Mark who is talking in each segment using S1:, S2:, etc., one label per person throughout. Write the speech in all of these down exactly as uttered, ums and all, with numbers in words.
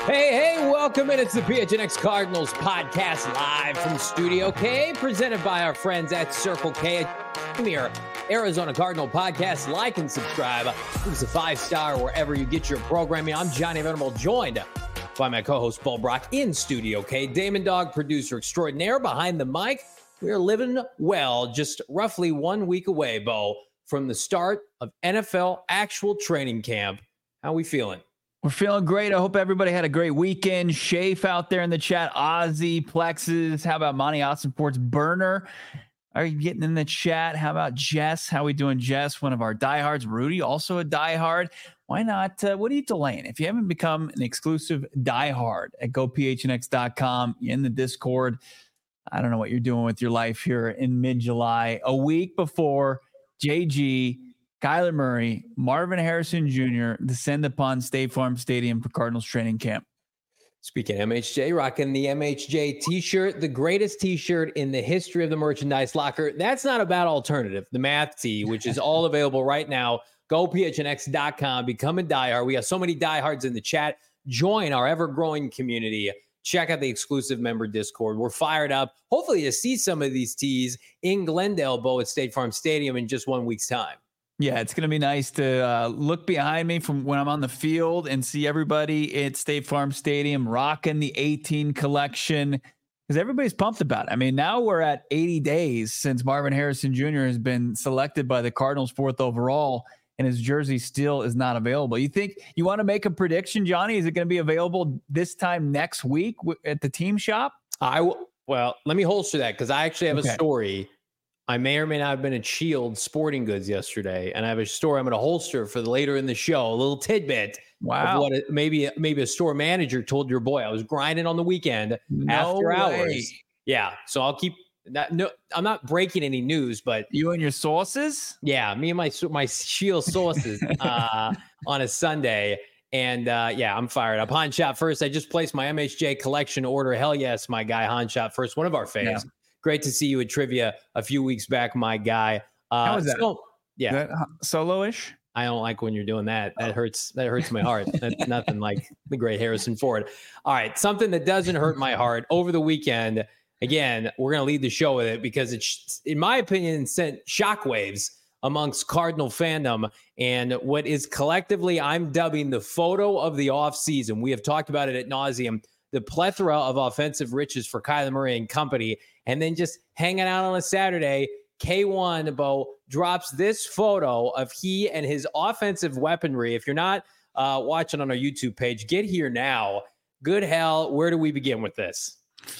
S1: Hey, hey, welcome in. It's the P H N X Cardinals podcast live from Studio K, presented by our friends at Circle K. Premier Arizona Cardinal podcast. Like and subscribe. Give us a five-star wherever you get your programming. I'm Johnny Venable, joined by my co-host Paul Brock in Studio K. Damon Dog, producer extraordinaire behind the mic. We are living well, just roughly one week away, Bo, from the start of N F L actual training camp. How we feeling?
S2: We're feeling great. I hope everybody had a great weekend. Shafe out there in the chat. Ozzy, Plexus. How about Monty Austin Sports Burner? Are you getting in the chat? How about Jess? How we doing, Jess? One of our diehards. Rudy, also a diehard. Why not? Uh, what are you delaying? If you haven't become an exclusive diehard at go p h n x dot com, you're in the Discord. I don't know what you're doing with your life here in mid-July. A week before J G, Kyler Murray, Marvin Harrison Junior descend upon State Farm Stadium for Cardinals training camp.
S1: Speaking of M H J, rocking the M H J t-shirt, the greatest t-shirt in the history of the merchandise locker. That's not a bad alternative. The math tee, which is all available right now. go p h n x dot com. Become a diehard. We got so many diehards in the chat. Join our ever-growing community. Check out the exclusive member Discord. We're fired up. Hopefully to see some of these tees in Glendale, Bo, at State Farm Stadium in just one week's time.
S2: Yeah, it's going to be nice to uh, look behind me from when I'm on the field and see everybody at State Farm Stadium rocking the eighteen collection, because everybody's pumped about it. I mean, now we're at eighty days since Marvin Harrison Junior has been selected by the Cardinals fourth overall, and his jersey still is not available. You think you want to make a prediction, Johnny? Is it going to be available this time next week w- at the team shop?
S1: I w- well, let me holster that because I actually have
S2: Okay.
S1: a story. I may or may not have been at Shield Sporting Goods yesterday, and I have a story I'm going to holster for the later in the show. A little tidbit
S2: Wow.
S1: of what a, maybe maybe a store manager told your boy. I was grinding on the weekend
S2: No
S1: after
S2: way.
S1: hours. Yeah, so I'll keep that. No, I'm not breaking any news, but
S2: You and your sources?
S1: yeah, me and my my Shield sources uh, on a Sunday. And uh, yeah, I'm fired up. Han Shot First. I just placed my M H J collection order. Hell yes, my guy Han Shot First, one of our faves.
S2: Yeah.
S1: Great to see you at trivia a few weeks back, my guy. Uh,
S2: How was that?
S1: So, yeah,
S2: That solo-ish?
S1: I don't like when you're doing that. That hurts. That hurts my heart. That's nothing like the great Harrison Ford. All right, something that doesn't hurt my heart over the weekend. Again, we're going to lead the show with it because it's, in my opinion, sent shockwaves amongst Cardinal fandom and what is collectively I'm dubbing the photo of the offseason. We have talked about it at nauseum. The plethora of offensive riches for Kyler Murray and company. And then just hanging out on a Saturday, K one, Bo, drops this photo of he and his offensive weaponry. If you're not uh, watching on our YouTube page, get here now. Good hell, where do we begin with this?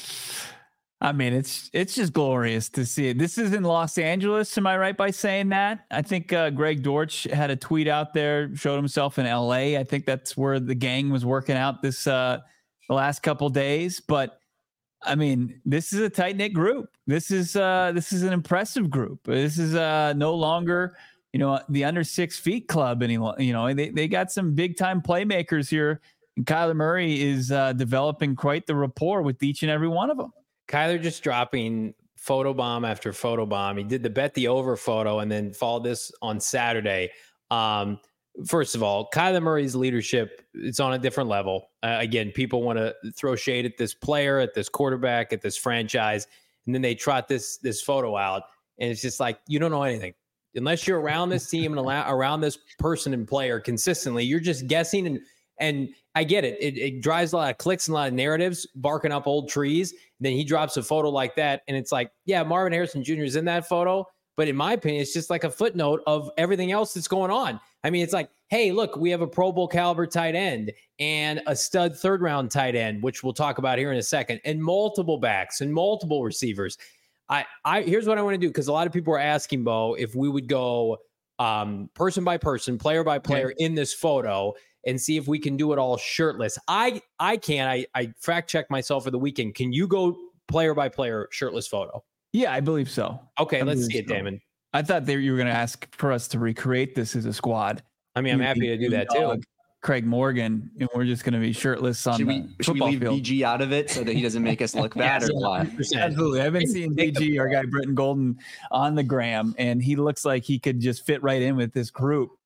S2: I mean, it's it's just glorious to see it. This is in Los Angeles. Am I right by saying that? I think uh, Greg Dortch had a tweet out there, showed himself in L A. I think that's where the gang was working out this uh, the last couple days. But I mean, this is a tight knit group. This is uh, this is an impressive group. This is uh, no longer, you know, the under six feet club any You know, they they got some big time playmakers here, and Kyler Murray is uh, developing quite the rapport with each and every one of them.
S1: Kyler just dropping photobomb after photobomb. He did the bet the over photo and then followed this on Saturday. Um, first of all, Kyler Murray's leadership, it's on a different level. Uh, again, people want to throw shade at this player, at this quarterback, at this franchise, and then they trot this this photo out, and it's just like, you don't know anything. Unless you're around this team and allow, around this person and player consistently, you're just guessing. And and I get it. it. It drives a lot of clicks and a lot of narratives, barking up old trees. And then he drops a photo like that, and it's like, yeah, Marvin Harrison Junior is in that photo, but in my opinion, it's just like a footnote of everything else that's going on. I mean, it's like, hey, look, we have a Pro Bowl caliber tight end and a stud third round tight end, which we'll talk about here in a second, and multiple backs and multiple receivers. I, I here's what I want to do, because a lot of people are asking, Bo, if we would go um, person by person, player by player okay. in this photo and see if we can do it all shirtless. I I can. I, I fact checked myself for the weekend. Can you go player by player shirtless photo?
S2: Yeah, I believe so.
S1: Okay,
S2: I
S1: let's see it,
S2: so.
S1: Damon.
S2: I thought that you were going to ask for us to recreate this as a squad.
S1: I mean, I'm
S2: you,
S1: happy to do that
S2: dog,
S1: too.
S2: Craig Morgan, and we're just going to be shirtless on
S3: should
S2: the
S3: we,
S2: football
S3: should we leave
S2: field.
S3: B G out of it so that he doesn't make us look bad,
S1: yes,
S3: or what?
S2: Absolutely. I've been seeing B G, our guy Britton Golden, on the gram, and he looks like he could just fit right in with this group.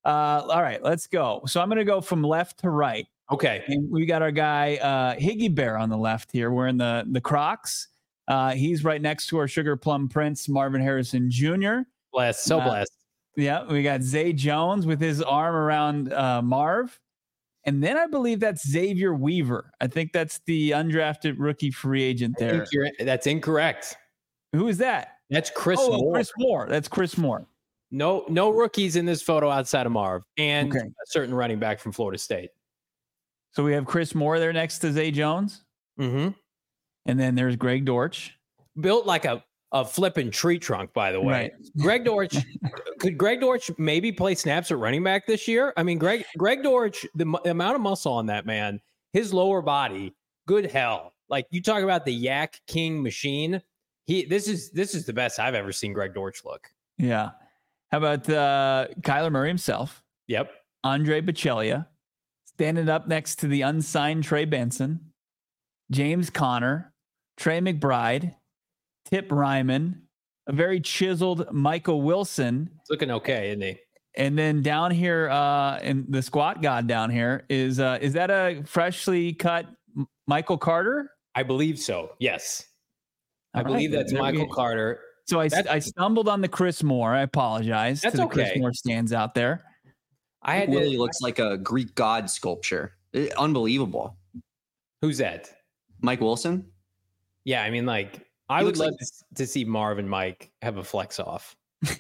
S2: Uh, all right, let's go. So I'm going to go from left to right.
S1: Okay.
S2: And we got our guy uh, Higgy Bear on the left here, wearing the the Crocs. Uh, he's right next to our Sugar Plum Prince, Marvin Harrison Junior
S1: Blessed. So
S2: Uh,
S1: blessed.
S2: Yeah, we got Zay Jones with his arm around uh, Marv. And then I believe that's Xavier Weaver. I think that's the undrafted rookie free agent
S1: I
S2: there.
S1: think you're, that's incorrect.
S2: Who is that?
S1: That's Chris
S2: oh,
S1: Moore.
S2: Chris Moore. That's Chris Moore.
S1: No, no rookies in this photo outside of Marv and
S2: Okay.
S1: a certain running back from Florida State.
S2: So we have Chris Moore there next to Zay Jones.
S1: Mm-hmm.
S2: And then there's Greg Dortch.
S1: Built like a, a flipping tree trunk, by the way.
S2: Right.
S1: Greg Dortch, could Greg Dortch maybe play snaps at running back this year? I mean, Greg Greg Dortch, the, mu- the amount of muscle on that man, his lower body, good hell. Like you talk about the Yak King machine. He this is this is the best I've ever seen Greg Dortch look.
S2: Yeah. How about uh, Kyler Murray himself?
S1: Yep.
S2: Andre Bocellia standing up next to the unsigned Trey Benson, James Conner, Trey McBride, Tip Ryman, a very chiseled Michael Wilson.
S1: It's looking okay, isn't he?
S2: And then down here, uh, in the squat god down here is uh, is that a freshly cut M- Michael Carter?
S1: I believe so. Yes. I
S2: All right,
S1: believe that's
S2: there we
S1: Michael
S2: go.
S1: Carter.
S2: So I,
S1: That's-
S2: I stumbled on the Chris Moore. I apologize.
S1: That's
S2: to the Chris
S1: okay.
S2: Moore stands out there.
S1: I had
S3: It really
S1: to,
S3: looks like a Greek god sculpture. Eh, unbelievable.
S1: who's that?
S3: Mike Wilson.
S1: Yeah, I mean, like, I
S3: He
S1: would
S3: looks
S1: love
S3: like-
S1: to, to see Marv and Mike have a flex off.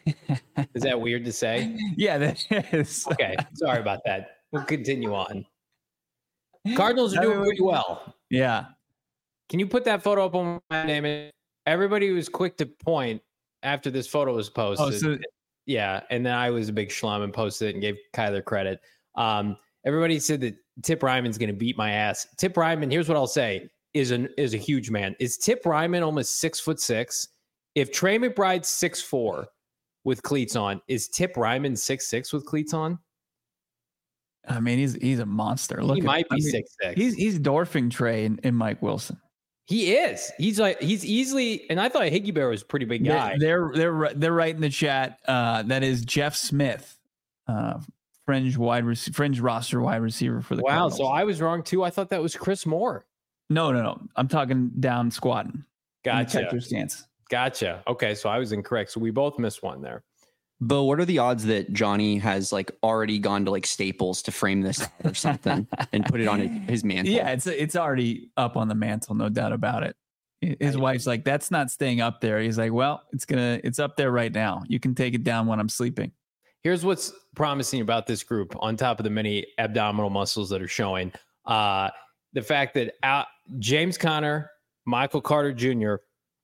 S1: Is that weird to say?
S2: Yeah, that is.
S1: Okay, sorry about that. We'll continue on. Cardinals are
S2: I
S1: doing
S2: mean,
S1: pretty well.
S2: Yeah.
S1: Can you put that photo up on my name? Everybody was quick to point after this photo was posted.
S2: Oh, so
S1: Yeah, and then I was a big schlum and posted it and gave Kyler credit. Um, everybody said that Tip Ryman's going to beat my ass. Tip Ryman, here's what I'll say, is an is a huge man. Is Tip Ryman almost six foot six? If Trey McBride's six four with cleats on, is Tip Ryman six six with cleats on?
S2: I mean, he's he's a monster. Look,
S1: He
S2: at-
S1: might be
S2: I mean,
S1: six six.
S2: He's he's dwarfing Trey and, and Mike Wilson.
S1: He is. He's like he's easily. And I thought Higgy Bear was a pretty big guy.
S2: They're they're they're, they're right in the chat. Uh, that is Jeff Smith, uh, fringe wide rec- fringe roster wide receiver for the
S1: Wow.
S2: Cardinals.
S1: So I was wrong too. I thought that was Chris Moore.
S2: no no no. I'm talking down squatting. in the
S1: Gotcha.
S2: catcher stance.
S1: Gotcha. Okay. So I was incorrect. So we both missed one there.
S3: But what are the odds that Johnny has like already gone to like Staples to frame this out or something and put it on his, his mantle?
S2: Yeah, it's it's already up on the mantle, no doubt about it. His wife's like, that's not staying up there. He's like, well, it's gonna, it's up there right now. You can take it down when I'm sleeping.
S1: Here's what's promising about this group on top of the many abdominal muscles that are showing. Uh, the fact that out, James Conner, Michael Carter Junior,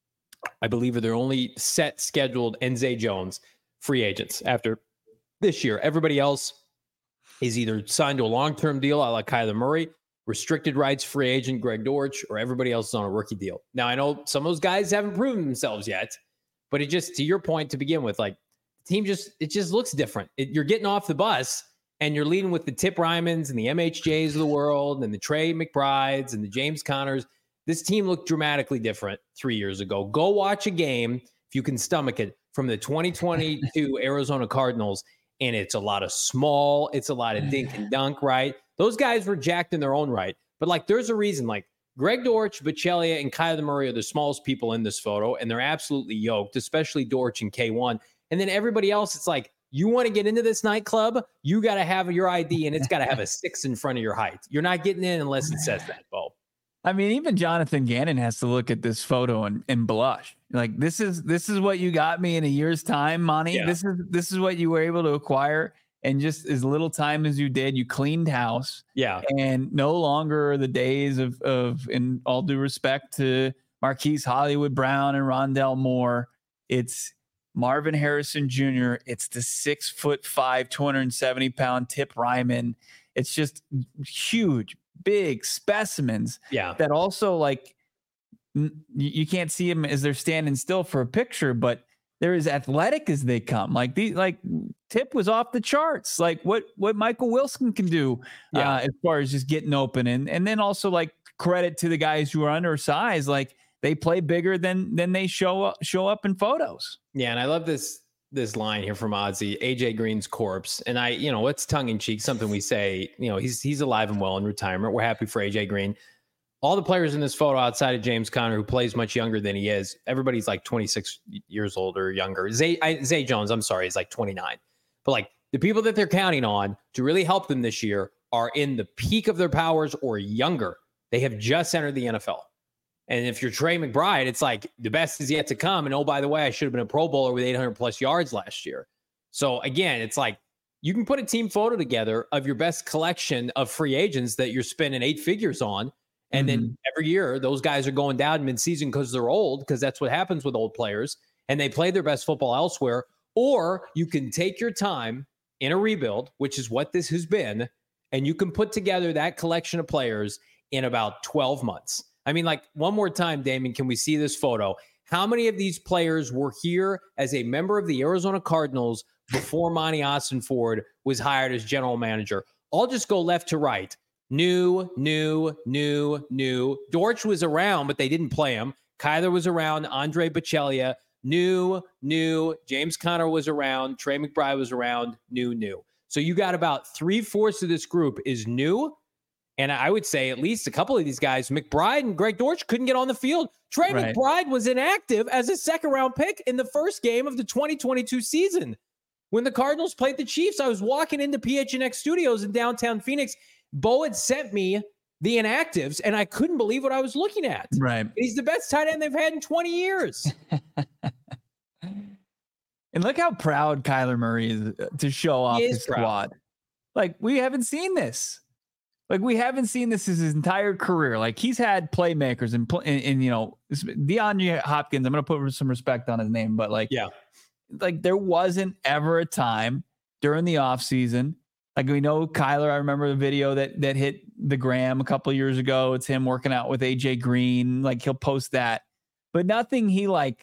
S1: I believe are their only set scheduled, and Zay Jones free agents after this year. Everybody else is either signed to a long-term deal, like Kyler Murray, restricted rights free agent Greg Dortch, or everybody else is on a rookie deal. Now, I know some of those guys haven't proven themselves yet, but it just, to your point to begin with, like, the team just, it just looks different. It, you're getting off the bus and you're leading with the Tip Rymans and the M H Js of the world and the Trey McBrides and the James Connors. This team looked dramatically different three years ago. Go watch a game, if you can stomach it, from the twenty twenty-two Arizona Cardinals, and it's a lot of small, it's a lot of dink and dunk, right? Those guys were jacked in their own right. But, like, there's a reason, like, Greg Dortch, Bocellia, and Kyler Murray are the smallest people in this photo, and they're absolutely yoked, especially Dortch and K one. And then everybody else, it's like, you want to get into this nightclub, you got to have your I D, and it's got to have a six in front of your height. You're not getting in unless it says that, Bo.
S2: I mean, even Jonathan Gannon has to look at this photo and, and blush. Like, this is this is what you got me in a year's time, Monty.
S1: Yeah.
S2: This is this is what you were able to acquire in just as little time as you did. You cleaned house,
S1: Yeah.
S2: and no longer are the days of of, in all due respect to Marquise Hollywood Brown and Rondell Moore, it's Marvin Harrison Junior It's the six foot five, two hundred seventy pound Tip Ryman. It's just huge, big specimens
S1: Yeah.
S2: that also, like, n- you you can't see them as they're standing still for a picture, but they're as athletic as they come. Like the like Tip was off the charts. Like what what Michael Wilson can do
S1: Yeah.
S2: uh, as far as just getting open, and and then also, like, credit to the guys who are undersized. Like, they play bigger than than they show up show up in photos.
S1: Yeah, and I love this this line here from Ozzy, A J Green's corpse. And I, you know, it's tongue in cheek, something we say, you know, he's, he's alive and well in retirement. We're happy for A J Green. All the players in this photo outside of James Conner, who plays much younger than he is, everybody's like twenty-six years old or younger. Zay, I, Zay Jones, I'm sorry, is like twenty-nine. But like the people that they're counting on to really help them this year are in the peak of their powers or younger. They have just entered the N F L. And if you're Trey McBride, it's like the best is yet to come. And oh, by the way, I should have been a Pro Bowler with eight hundred plus yards last year. So again, it's like you can put a team photo together of your best collection of free agents that you're spending eight figures on. And mm-hmm. then every year, those guys are going down midseason because they're old, because that's what happens with old players. And they play their best football elsewhere. Or you can take your time in a rebuild, which is what this has been, and you can put together that collection of players in about twelve months. I mean, like, one more time, Damon, can we see this photo? How many of these players were here as a member of the Arizona Cardinals before Monty Ossenford was hired as general manager? I'll just go left to right. New, new, new, new. Dortch was around, but they didn't play him. Kyler was around. Andre Bocellia. New, new. James Conner was around. Trey McBride was around. New, new. So you got about three-fourths of this group is new. And I would say at least a couple of these guys, McBride and Greg Dortch, couldn't get on the field. Trey right. McBride was inactive as a second-round pick in the first game of the twenty twenty-two season. When the Cardinals played the Chiefs, I was walking into P H N X Studios in downtown Phoenix. Bo had sent me the inactives, and I couldn't believe what I was looking at.
S2: Right.
S1: He's the best tight end they've had in twenty years.
S2: And look how proud Kyler Murray is to show off his proud. squad. Like, we haven't seen this. Like, we haven't seen this his entire career. Like, he's had playmakers and, and, and you know, DeAndre Hopkins, I'm going to put some respect on his name, but like,
S1: yeah,
S2: like there wasn't ever a time during the offseason. Like, we know Kyler, I remember the video that, that hit the gram a couple of years ago. It's him working out with A J Green. Like, he'll post that, but nothing he like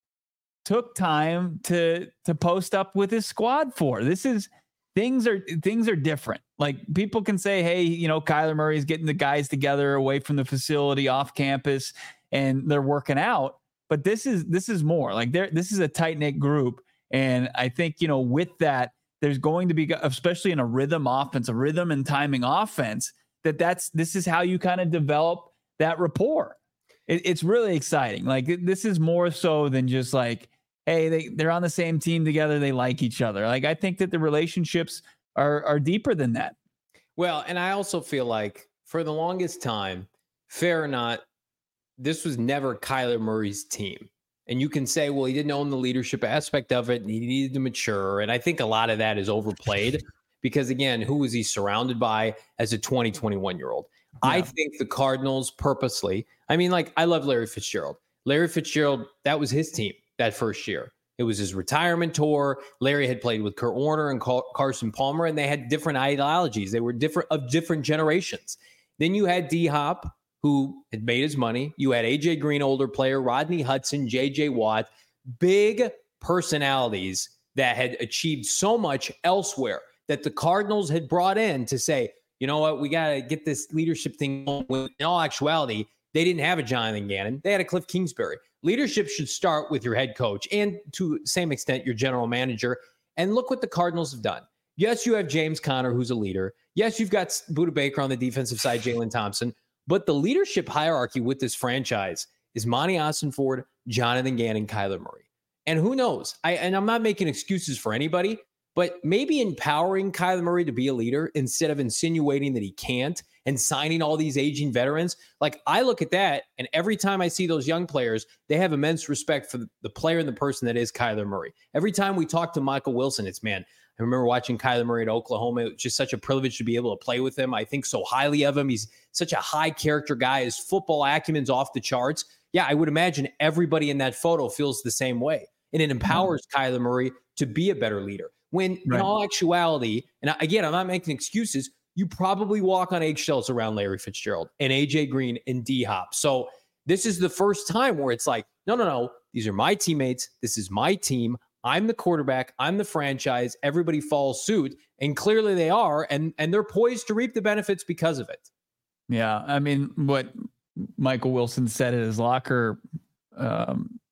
S2: took time to, to post up with his squad for. This is, Things are things are different. Like, people can say, hey, you know, Kyler Murray's getting the guys together away from the facility off campus and they're working out. But this is this is more like there. This is a tight knit group. And I think, you know, with that, there's going to be, especially in a rhythm offense, a rhythm and timing offense, that that's this is how you kind of develop that rapport. It, it's really exciting. Like, this is more so than just like, hey, they, they're on the same team together. They like each other. Like, I think that the relationships are are deeper than that.
S1: Well, and I also feel like for the longest time, fair or not, this was never Kyler Murray's team. And you can say, well, he didn't own the leadership aspect of it and he needed to mature. And I think a lot of that is overplayed because, again, who was he surrounded by as a twenty, twenty-one-year-old? Yeah. I think the Cardinals purposely, I mean, like, I love Larry Fitzgerald. Larry Fitzgerald, that was his team. That first year, it was his retirement tour. Larry had played with Kurt Warner and Carson Palmer, and they had different ideologies. They were different of different generations. Then you had D-Hop, who had made his money. You had A J Green, older player, Rodney Hudson, J J Watt, big personalities that had achieved so much elsewhere that the Cardinals had brought in to say, you know what, we got to get this leadership thing going. In all actuality, they didn't have a Jonathan Gannon. They had a Cliff Kingsbury. Leadership should start with your head coach and, to the same extent, your general manager. And look what the Cardinals have done. Yes, you have James Conner, who's a leader. Yes, you've got Budda Baker on the defensive side, Jalen Thompson. But the leadership hierarchy with this franchise is Monty Ossenford, Jonathan Gannon, Kyler Murray. And who knows? I and I'm not making excuses for anybody, but maybe empowering Kyler Murray to be a leader instead of insinuating that he can't and signing all these aging veterans. Like, I look at that, and every time I see those young players, they have immense respect for the player and the person that is Kyler Murray. Every time we talk to Michael Wilson, it's, man, I remember watching Kyler Murray at Oklahoma. It was just such a privilege to be able to play with him. I think so highly of him. He's such a high character guy. His football acumen's off the charts. Yeah, I would imagine everybody in that photo feels the same way. And it empowers mm-hmm. Kyler Murray to be a better leader. When right. in all actuality, and again, I'm not making excuses, you probably walk on eggshells around Larry Fitzgerald and A J Green and D-Hop. So this is the first time where it's like, no, no, no, these are my teammates. This is my team. I'm the quarterback. I'm the franchise. Everybody follows suit. And clearly they are. And, and they're poised to reap the benefits because of it.
S2: Yeah. I mean, what Michael Wilson said at his locker um,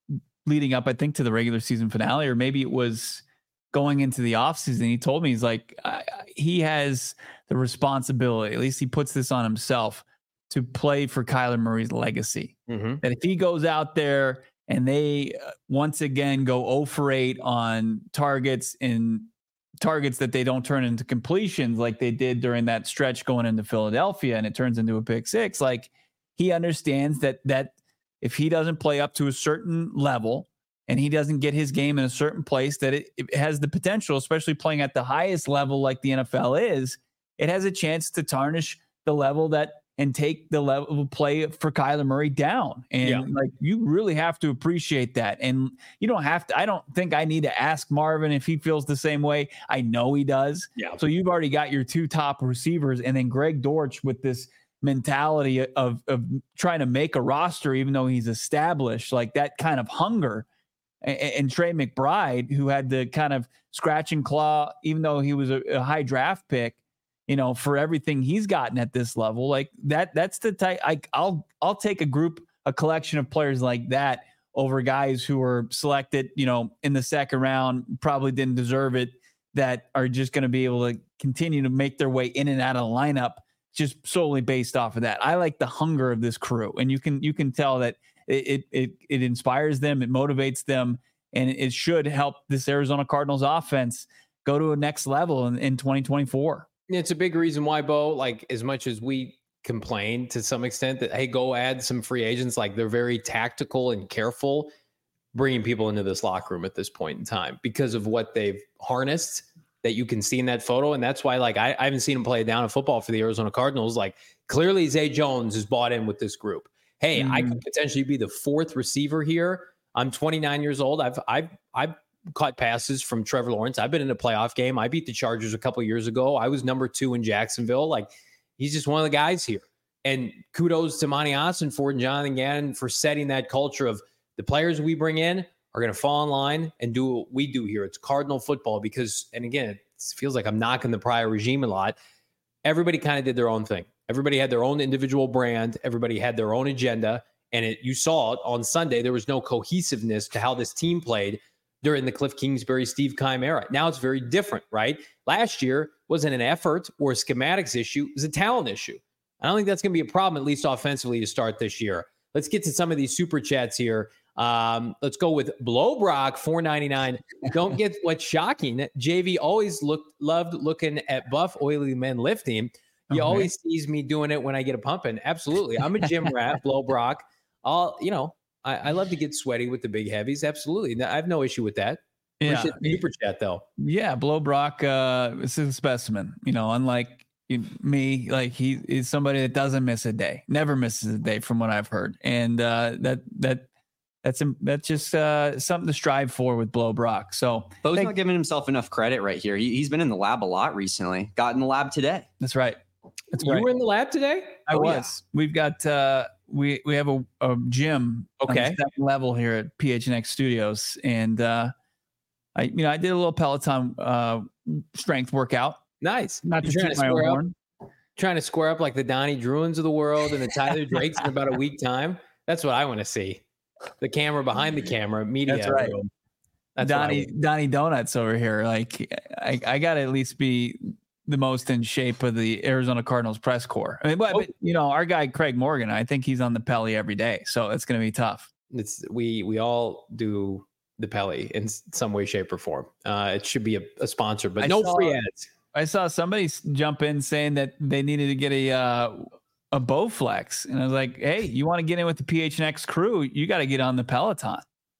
S2: leading up, I think, to the regular season finale, or maybe it was going into the offseason. He told me, he's like, I, he has the responsibility, at least he puts this on himself, to play for Kyler Murray's legacy. Mm-hmm. That if he goes out there and they uh, once again go oh for eight on targets and targets that they don't turn into completions like they did during that stretch going into Philadelphia, and it turns into a pick six, like he understands that that if he doesn't play up to a certain level and he doesn't get his game in a certain place, that it, it has the potential, especially playing at the highest level like the N F L is, it has a chance to tarnish the level that and take the level of play for Kyler Murray down. And yeah. like, you really have to appreciate that. And you don't have to, I don't think I need to ask Marvin if he feels the same way. I know he does. Yeah. So you've already got your two top receivers, and then Greg Dortch with this mentality of, of trying to make a roster, even though he's established, like that kind of hunger. And, and Trey McBride, who had the kind of scratch and claw, even though he was a, a high draft pick, you know, for everything he's gotten at this level, like that, that's the type. I, I'll, I'll take a group, a collection of players like that over guys who were selected, you know, in the second round, probably didn't deserve it, that are just going to be able to continue to make their way in and out of the lineup just solely based off of that. I like the hunger of this crew, and you can, you can tell that it, it, it inspires them, it motivates them, and it should help this Arizona Cardinals offense go to a next level in, in twenty twenty-four.
S1: It's a big reason why, Bo, like as much as we complain to some extent that, hey, go add some free agents, like they're very tactical and careful bringing people into this locker room at this point in time because of what they've harnessed that you can see in that photo. And that's why, like, I, I haven't seen him play down in football for the Arizona Cardinals. Like, clearly Zay Jones is bought in with this group. Hey, mm. I could potentially be the fourth receiver here. I'm twenty-nine years old. I've, I've, I've, caught passes from Trevor Lawrence. I've been in a playoff game. I beat the Chargers a couple of years ago. I was number two in Jacksonville. Like, he's just one of the guys here. And kudos to Monty Ossenfort and Jonathan Gannon for setting that culture of the players we bring in are going to fall in line and do what we do here. It's Cardinal football because, and again, it feels like I'm knocking the prior regime a lot. Everybody kind of did their own thing. Everybody had their own individual brand. Everybody had their own agenda. And it, you saw it on Sunday. There was no cohesiveness to how this team played during the Cliff Kingsbury, Steve Keim era. Now it's very different, right? Last year wasn't an effort or a schematics issue. It was a talent issue. I don't think that's going to be a problem, at least offensively, to start this year. Let's get to some of these super chats here. Um, let's go with Blowbrock, four ninety-nine. Don't get what's shocking. J V always looked loved looking at buff, oily men lifting. He okay. always sees me doing it when I get a pumping. Absolutely. I'm a gym rat, Blowbrock. I'll, you know, I, I love to get sweaty with the big heavies. Absolutely. I have no issue with that.
S2: Yeah.
S1: Super chat though.
S2: Yeah. Blowbrock, uh, this is a specimen, you know, unlike me, like he is somebody that doesn't miss a day, never misses a day from what I've heard. And, uh, that, that, that's, that's just, uh, something to strive for with Blowbrock. So
S3: Bo's not giving himself enough credit right here. He, he's been in the lab a lot recently. Got in the lab today.
S2: That's right. That's
S1: you
S2: right.
S1: were in the lab today?
S2: I oh, was. Yeah. We've got, uh, we, we have a, a gym
S1: okay.
S2: on the second level here at P H N X Studios. And, uh, I, you know, I did a little Peloton, uh, strength workout.
S1: Nice.
S2: Not to trying to square up,
S1: trying to square up like the Donnie Druins of the world and the Tyler Drakes in about a week time. That's what I want to see. The camera behind the camera, media.
S2: That's right. That's Donnie, Donnie Donuts over here. Like I, I got to at least be the most in shape of the Arizona Cardinals press corps. I mean, but, oh. but you know, our guy Craig Morgan, I think he's on the Pelly every day, so it's going to be tough.
S1: It's we we all do the Pelly in some way, shape, or form. Uh, it should be a, a sponsor, but I no saw, free ads.
S2: I saw somebody jump in saying that they needed to get a uh, a Bowflex, and I was like, hey, you want to get in with the P H N X crew? You got to get on the Peloton.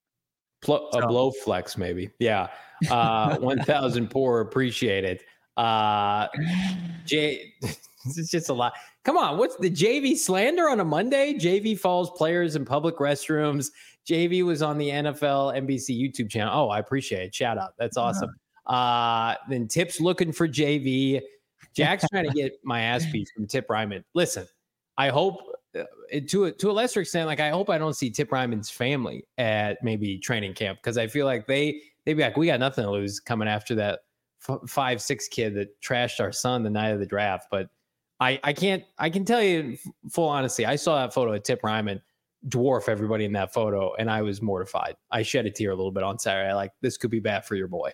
S1: Pl- a so. Blowflex, maybe. Yeah, uh, one thousand poor appreciate it. Uh, J, it's just a lot. Come on, what's the J V slander on a Monday? J V falls players in public restrooms. J V was on the N F L N B C YouTube channel. Oh, I appreciate it. Shout out. That's awesome. Uh, then Tip's looking for J V. Jack's trying to get my ass beat from Tip Ryman. Listen, I hope uh, to a, to a lesser extent, like I hope I don't see Tip Ryman's family at maybe training camp because I feel like they they'd be like, we got nothing to lose coming after that five, six kid that trashed our son the night of the draft. But I, I can't, I can tell you full honesty. I saw that photo of Tip Ryman. dwarf everybody in that photo. And I was mortified. I shed a tear a little bit on Saturday. I like, this could be bad for your boy.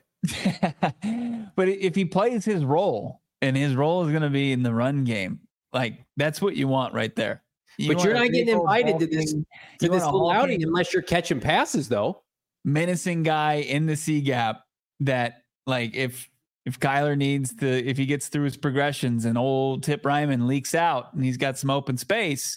S2: But if he plays his role, and his role is going to be in the run game, like that's what you want right there. You
S1: but you're not getting invited to this, to this little outing unless you're catching passes, though.
S2: Menacing guy in the C gap that, like, if if Kyler needs to, if he gets through his progressions and old Tip Ryman leaks out and he's got some open space,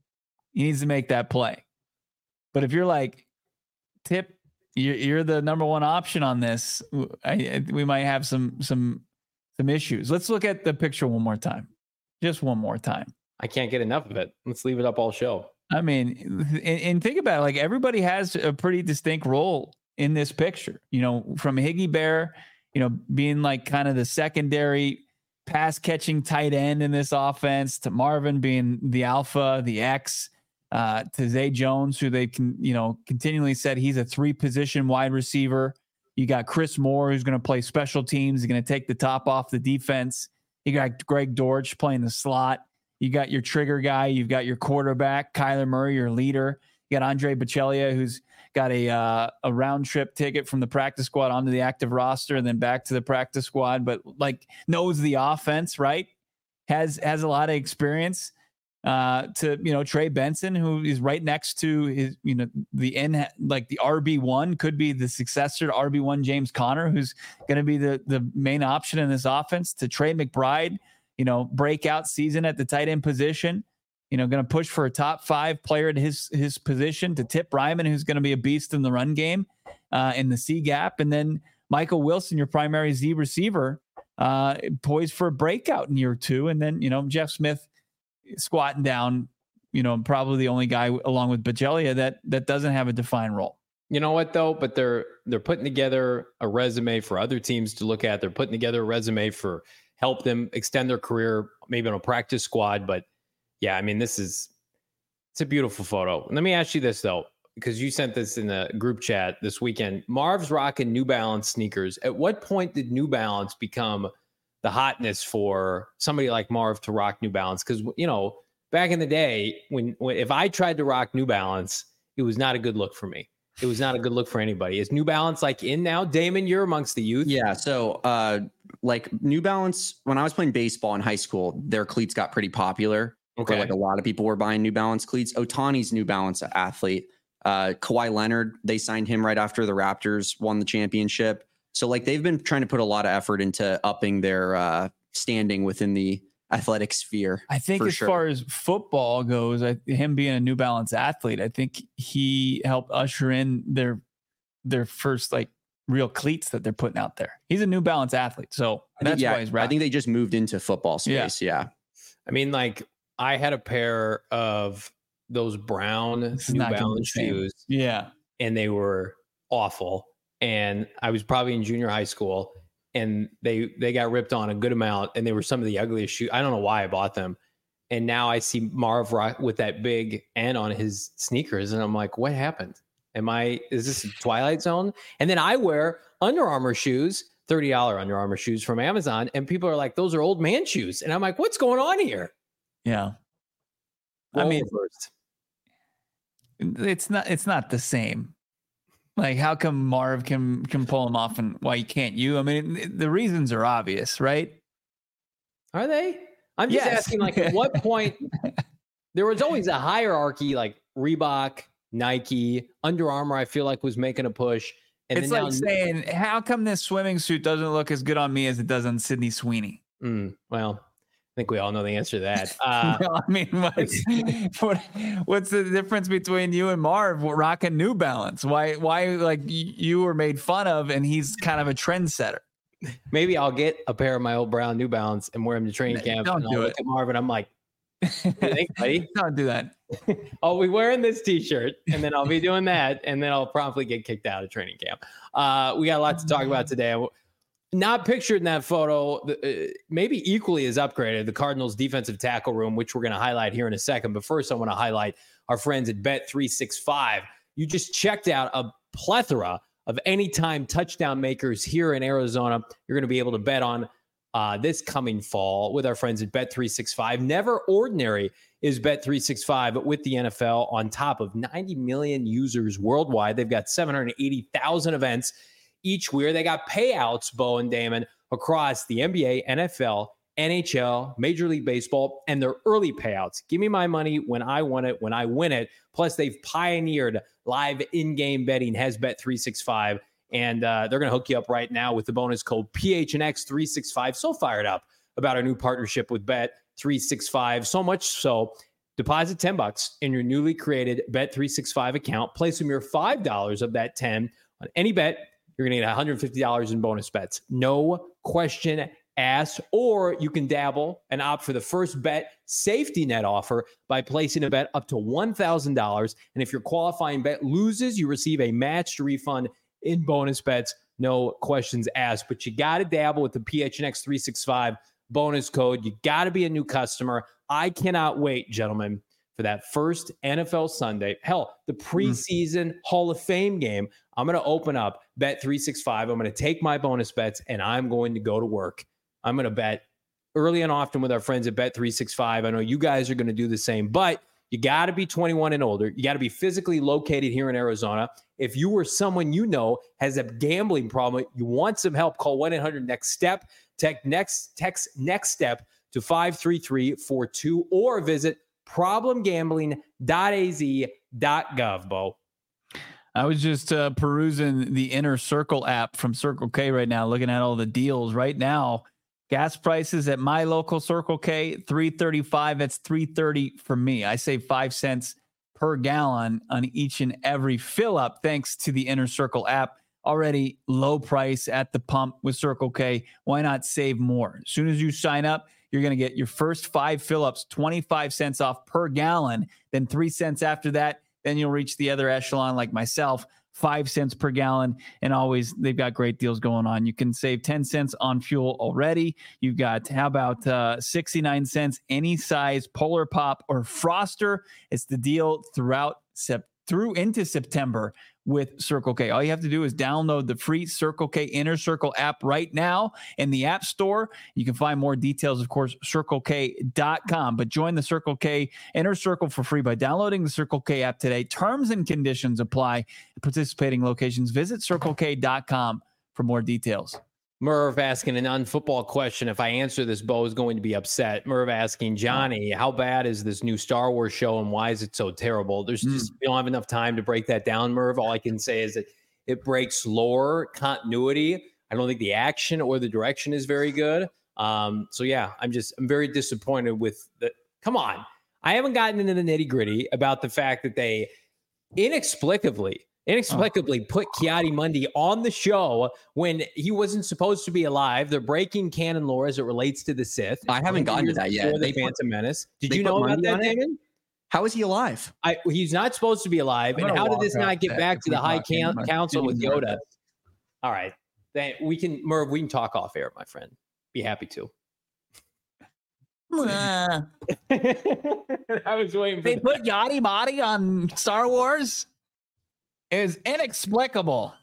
S2: he needs to make that play. But if you're like, Tip, you're, you're the number one option on this, I, I, we might have some some some issues. Let's look at the picture one more time, just one more time.
S1: I can't get enough of it. Let's leave it up all show.
S2: I mean, and, and think about it. Like, everybody has a pretty distinct role in this picture, you know, from Higgy Bear, you know, being like kind of the secondary pass catching tight end in this offense, to Marvin being the alpha, the X, uh, to Zay Jones, who they can, you know, continually said he's a three position wide receiver. You got Chris Moore, who's going to play special teams. He's going to take the top off the defense. You got Greg Dortch playing the slot. You got your trigger guy. You've got your quarterback, Kyler Murray, your leader. You got Andre Bocellia, who's got a uh, a round trip ticket from the practice squad onto the active roster and then back to the practice squad, but like knows the offense, right? Has has a lot of experience. Uh, to you know, Trey Benson, who is right next to his, you know, the end, like the R B one, could be the successor to R B one James Conner, who's going to be the the main option in this offense. To Trey McBride, you know, breakout season at the tight end position, you know, going to push for a top five player at his his position. To Tip Ryman, who's going to be a beast in the run game, uh, in the C gap, and then Michael Wilson, your primary Z receiver, uh, poised for a breakout in year two, and then you know Jeff Smith squatting down, you know, probably the only guy along with Bocellia that that doesn't have a defined role.
S1: You know what though? But they're they're putting together a resume for other teams to look at. They're putting together a resume for help them extend their career, maybe on a practice squad. But yeah, I mean, this is it's a beautiful photo. Let me ask you this though, because you sent this in the group chat this weekend. Marv's rocking New Balance sneakers. At what point did New Balance become the hotness for somebody like Marv to rock New Balance? Because, you know, back in the day, when, when if I tried to rock New Balance, it was not a good look for me. It was not a good look for anybody. Is New Balance like in now? Damon, you're amongst the youth.
S3: Yeah. So uh, like New Balance, when I was playing baseball in high school, their cleats got pretty popular. Okay. Like a lot of people were buying New Balance cleats. Ohtani's New Balance athlete. Uh, Kawhi Leonard, they signed him right after the Raptors won the championship. So like they've been trying to put a lot of effort into upping their uh, standing within the athletic sphere.
S2: I think as sure. far as football goes, I, him being a New Balance athlete, I think he helped usher in their their first like real cleats that they're putting out there. He's a New Balance athlete, so that's
S3: think, yeah,
S2: why he's right.
S3: I think they just moved into football space. Yeah. yeah.
S1: I mean, like I had a pair of those brown New Balance shoes.
S2: Yeah,
S1: and they were awful. And I was probably in junior high school, and they they got ripped on a good amount, and they were some of the ugliest shoes. I don't know why I bought them. And now I see Marv rock with that big N on his sneakers, and I'm like, what happened? Am I, is this a Twilight Zone? And then I wear Under Armour shoes, thirty dollars Under Armour shoes from Amazon, and people are like, those are old man shoes. And I'm like, what's going on here?
S2: Yeah.
S1: Roll
S2: I mean,
S1: first.
S2: it's not it's not the same. Like, how come Marv can can pull them off and why you can't you? I mean, the reasons are obvious, right?
S1: Are they? I'm just yes. asking, like, at what point there was always a hierarchy, like Reebok, Nike, Under Armour, I feel like was making a push. And
S2: it's like now, saying, how come this swimming suit doesn't look as good on me as it does on Sydney Sweeney?
S1: Mm, well, I think we all know the answer to that. Uh,
S2: no, I mean, what's, what, what's the difference between you and Marv rocking New Balance? Why, why, like, you were made fun of and he's kind of a trendsetter?
S1: Maybe I'll get a pair of my old brown New Balance and wear them to training camp.
S2: Don't
S1: and
S2: do
S1: I'll
S2: it.
S1: Look at Marv and I'm like, think, buddy?
S2: Don't do that.
S1: I'll be wearing this t-shirt and then I'll be doing that. And then I'll promptly get kicked out of training camp. Uh, we got a lot to talk about today. Not pictured in that photo, uh, maybe equally as upgraded, the Cardinals defensive tackle room, which we're going to highlight here in a second. But first, I want to highlight our friends at Bet three sixty-five. You just checked out a plethora of anytime touchdown makers here in Arizona. You're going to be able to bet on uh, this coming fall with our friends at Bet three sixty-five. Never ordinary is Bet three sixty-five with the N F L on top of ninety million users worldwide. They've got seven hundred eighty thousand events each year. They got payouts, Bo and Damon, across the N B A, N F L, N H L, Major League Baseball, and their early payouts. Give me my money when I want it, when I win it. Plus, they've pioneered live in-game betting, has Bet three sixty-five, and uh, they're going to hook you up right now with the bonus code P H N X three sixty-five. So fired up about our new partnership with Bet three sixty-five. So much so, deposit ten bucks in your newly created Bet three sixty-five account. Place a mere five dollars of that ten on any bet. You're going to get one hundred fifty dollars in bonus bets. No question asked. Or you can dabble and opt for the first bet safety net offer by placing a bet up to one thousand dollars. And if your qualifying bet loses, you receive a matched refund in bonus bets. No questions asked. But you got to dabble with the P H N X three sixty-five bonus code. You got to be a new customer. I cannot wait, gentlemen, for that first N F L Sunday. Hell, the preseason mm. Hall of Fame game. I'm going to open up Bet three sixty-five. I'm going to take my bonus bets, and I'm going to go to work. I'm going to bet early and often with our friends at Bet three sixty-five. I know you guys are going to do the same, but you got to be twenty-one and older. You got to be physically located here in Arizona. If you or someone you know has a gambling problem, you want some help, call one eight hundred next step. Text next, text next step to five three three four two or visit problem gambling dot a z dot gov, Bo.
S2: I was just uh, perusing the Inner Circle app from Circle K right now, looking at all the deals right now. Gas prices at my local Circle K, three thirty-five. That's three thirty for me. I save five cents per gallon on each and every fill up, thanks to the Inner Circle app. Already low price at the pump with Circle K. Why not save more? As soon as you sign up, you're going to get your first five fill ups, twenty-five cents off per gallon. Then three cents after that. Then you'll reach the other echelon like myself, five cents per gallon. And always, they've got great deals going on. You can save ten cents on fuel already. You've got, how about uh, sixty-nine cents, any size Polar Pop or Froster. It's the deal throughout sep- through into September with Circle K. All you have to do is download the free Circle K Inner Circle app right now in the App Store. You can find more details, of course, circle k dot com. But join the Circle K Inner Circle for free by downloading the Circle K app today. Terms and conditions apply at participating locations. Visit circle k dot com for more details.
S1: Merv asking an unfootball question. If I answer this, Bo is going to be upset. Merv asking, Johnny, how bad is this new Star Wars show and why is it so terrible? There's just, mm. we don't have enough time to break that down, Merv. All I can say is that it breaks lore, continuity. I don't think the action or the direction is very good. Um, so yeah, I'm just, I'm very disappointed with the, come on. I haven't gotten into the nitty gritty about the fact that they inexplicably Inexplicably put Ki-Adi-Mundi on the show when he wasn't supposed to be alive. They're breaking canon lore as it relates to the Sith.
S3: I haven't gotten to that yet.
S1: The Phantom Menace. Did you know about that, Damon?
S3: How is he alive?
S1: I, he's not supposed to be alive. And how did this not get back to the High can- Council with Yoda? All right. Then we can, Merv, we can talk off air, my friend. Be happy to. I was waiting for
S2: They
S1: the-
S2: put Yadi-Madi on Star Wars? Is inexplicable.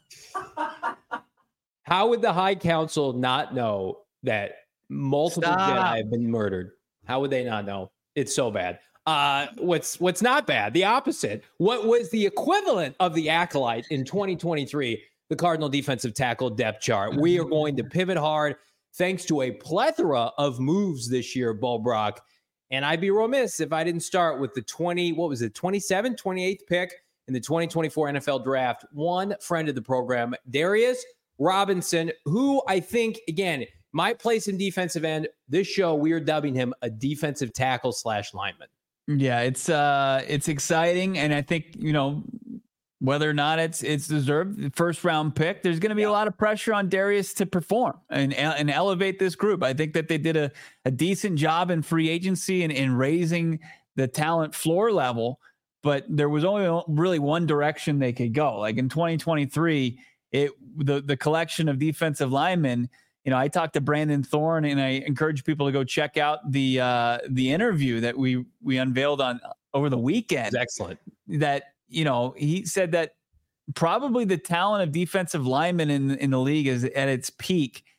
S1: How would the High Council not know that multiple
S2: Stop.
S1: Jedi have been murdered? How would they not know? It's so bad. Uh, what's what's not bad? The opposite. What was the equivalent of the Acolyte in twenty twenty-three? The Cardinal defensive tackle depth chart. We are going to pivot hard thanks to a plethora of moves this year, Bo Brock. And I'd be remiss if I didn't start with the twenty, what was it, twenty-seven, twenty-eighth pick in the twenty twenty-four N F L draft. One friend of the program, Darius Robinson, who I think, again, might play some defensive end. This show, we are dubbing him a defensive tackle slash lineman.
S2: Yeah, it's uh, it's exciting. And I think, you know, whether or not it's it's deserved, first round pick, there's going to be yeah. a lot of pressure on Darius to perform and and elevate this group. I think that they did a, a decent job in free agency and in raising the talent floor level. But there was only really one direction they could go. Like in twenty twenty-three, it the the collection of defensive linemen. You know, I talked to Brandon Thorne, and I encourage people to go check out the uh, the interview that we we unveiled on over the weekend.
S1: It's excellent.
S2: That you know, he said that probably the talent of defensive linemen in in the league is at its peak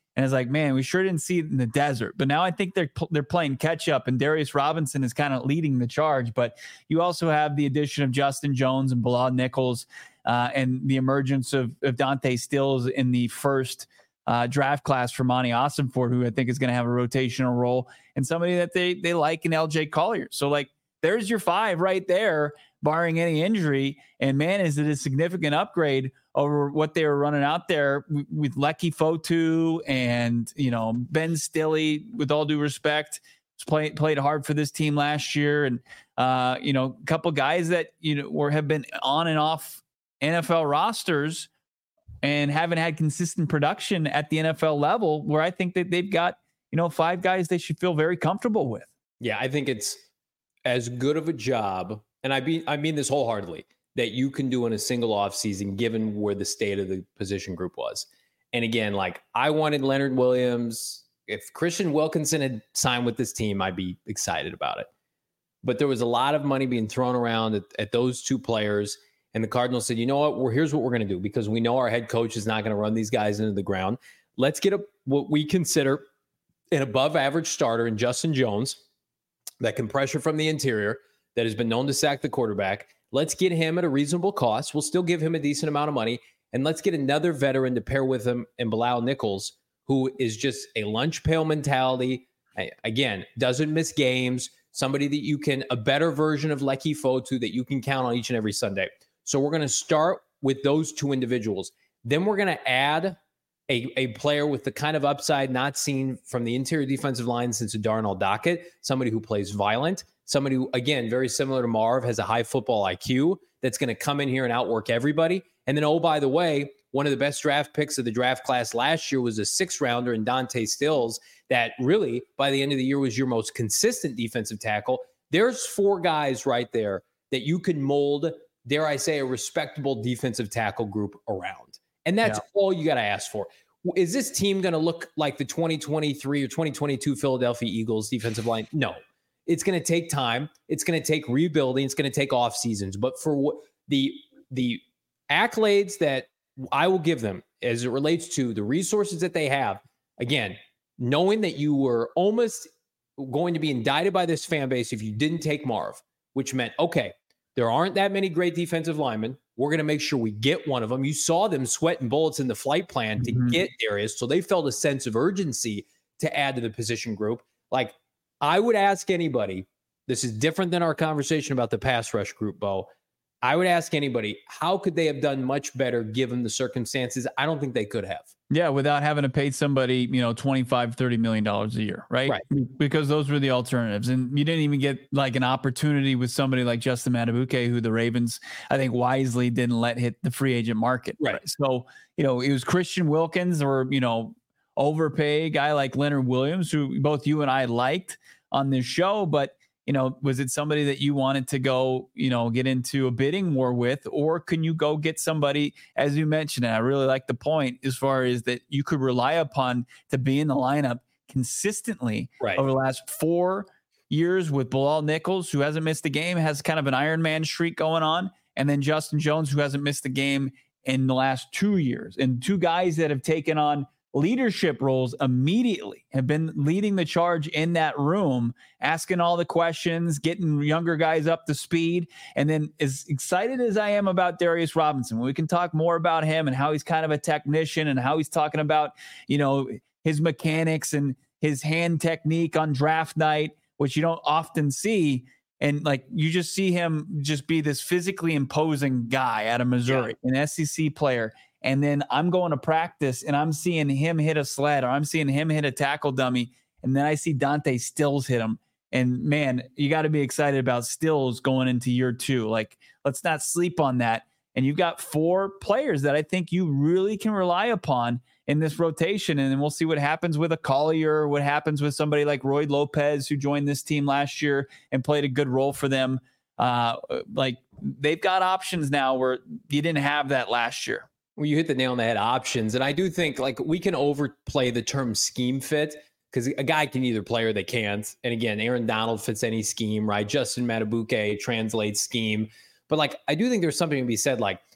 S2: And it's like, man, we sure didn't see it in the desert. But now I think they're they're playing catch up, and Darius Robinson is kind of leading the charge. But you also have the addition of Justin Jones and Bilal Nichols, uh, and the emergence of, of Dante Stills in the first uh, draft class for Monty Ossenfort, who I think is going to have a rotational role, and somebody that they they like in L J Collier. So like, there's your five right there, barring any injury. And man, is it a significant upgrade over what they were running out there with, with Lecky Fotu and, you know, Ben Stilley, with all due respect, played played hard for this team last year. And, uh, you know, a couple guys that, you know, were have been on and off N F L rosters and haven't had consistent production at the N F L level, where I think that they've got, you know, five guys they should feel very comfortable with.
S1: Yeah, I think it's as good of a job, and I mean, I mean this wholeheartedly, that you can do in a single offseason, given where the state of the position group was. And again, like, I wanted Leonard Williams. If Christian Wilkinson had signed with this team, I'd be excited about it. But there was a lot of money being thrown around at, at those two players. And the Cardinals said, you know what, well, here's what we're going to do, because we know our head coach is not going to run these guys into the ground. Let's get a, what we consider an above average starter in Justin Jones that can pressure from the interior, that has been known to sack the quarterback. Let's get him at a reasonable cost. We'll still give him a decent amount of money. And let's get another veteran to pair with him in Bilal Nichols, who is just a lunch pail mentality. Again, doesn't miss games. Somebody that you can, a better version of Lecky Fotu that you can count on each and every Sunday. So we're going to start with those two individuals. Then we're going to add a, a player with the kind of upside not seen from the interior defensive line since Darnell Dockett, somebody who plays violent, somebody who, again, very similar to Marv, has a high football I Q that's going to come in here and outwork everybody. And then, oh, by the way, one of the best draft picks of the draft class last year was a sixth rounder in Dante Stills that really, by the end of the year, was your most consistent defensive tackle. There's four guys right there that you can mold, dare I say, a respectable defensive tackle group around. And that's yeah. all you got to ask for. Is this team going to look like the twenty twenty-three or twenty twenty-two Philadelphia Eagles defensive line? No. It's going to take time. It's going to take rebuilding. It's going to take off seasons. But for what the the accolades that I will give them as it relates to the resources that they have, again, knowing that you were almost going to be indicted by this fan base if you didn't take Marv, which meant, okay, there aren't that many great defensive linemen. We're going to make sure we get one of them. You saw them sweating bullets in the flight plan to mm-hmm. get Darius, so they felt a sense of urgency to add to the position group. Like, I would ask anybody, this is different than our conversation about the pass rush group, Bo. I would ask anybody, how could they have done much better given the circumstances? I don't think they could have.
S2: Yeah, without having to pay somebody, you know, twenty-five, thirty million dollars a year, right?
S1: Right.
S2: Because those were the alternatives. And you didn't even get like an opportunity with somebody like Justin Madubuike, who the Ravens, I think, wisely didn't let hit the free agent market.
S1: Right.
S2: right? So, you know, it was Christian Wilkins or, you know, overpay a guy like Leonard Williams, who both you and I liked on this show, but you know, was it somebody that you wanted to go, you know, get into a bidding war with, or can you go get somebody, as you mentioned, and I really like the point as far as that you could rely upon to be in the lineup consistently
S1: right.
S2: over the last four years with Bilal Nichols, who hasn't missed a game, has kind of an Iron Man streak going on, and then Justin Jones, who hasn't missed a game in the last two years, and two guys that have taken on leadership roles immediately, have been leading the charge in that room, asking all the questions, getting younger guys up to speed. And then, as excited as I am about Darius Robinson, we can talk more about him and how he's kind of a technician and how he's talking about, you know, his mechanics and his hand technique on draft night, which you don't often see. And like, you just see him just be this physically imposing guy out of Missouri, yeah. an S E C player. And then I'm going to practice and I'm seeing him hit a sled, or I'm seeing him hit a tackle dummy. And then I see Dante Stills hit him. And man, you got to be excited about Stills going into year two. Like, let's not sleep on that. And you've got four players that I think you really can rely upon in this rotation. And then we'll see what happens with a Collier, what happens with somebody like Roy Lopez, who joined this team last year and played a good role for them. Uh, like, they've got options now where you didn't have that last year.
S1: Well, you hit the nail on the head, options. And I do think, like, we can overplay the term scheme fit, because a guy can either play or they can't. And again, Aaron Donald fits any scheme, right? Justin Madubuike translates scheme. But like, I do think there's something to be said. Like,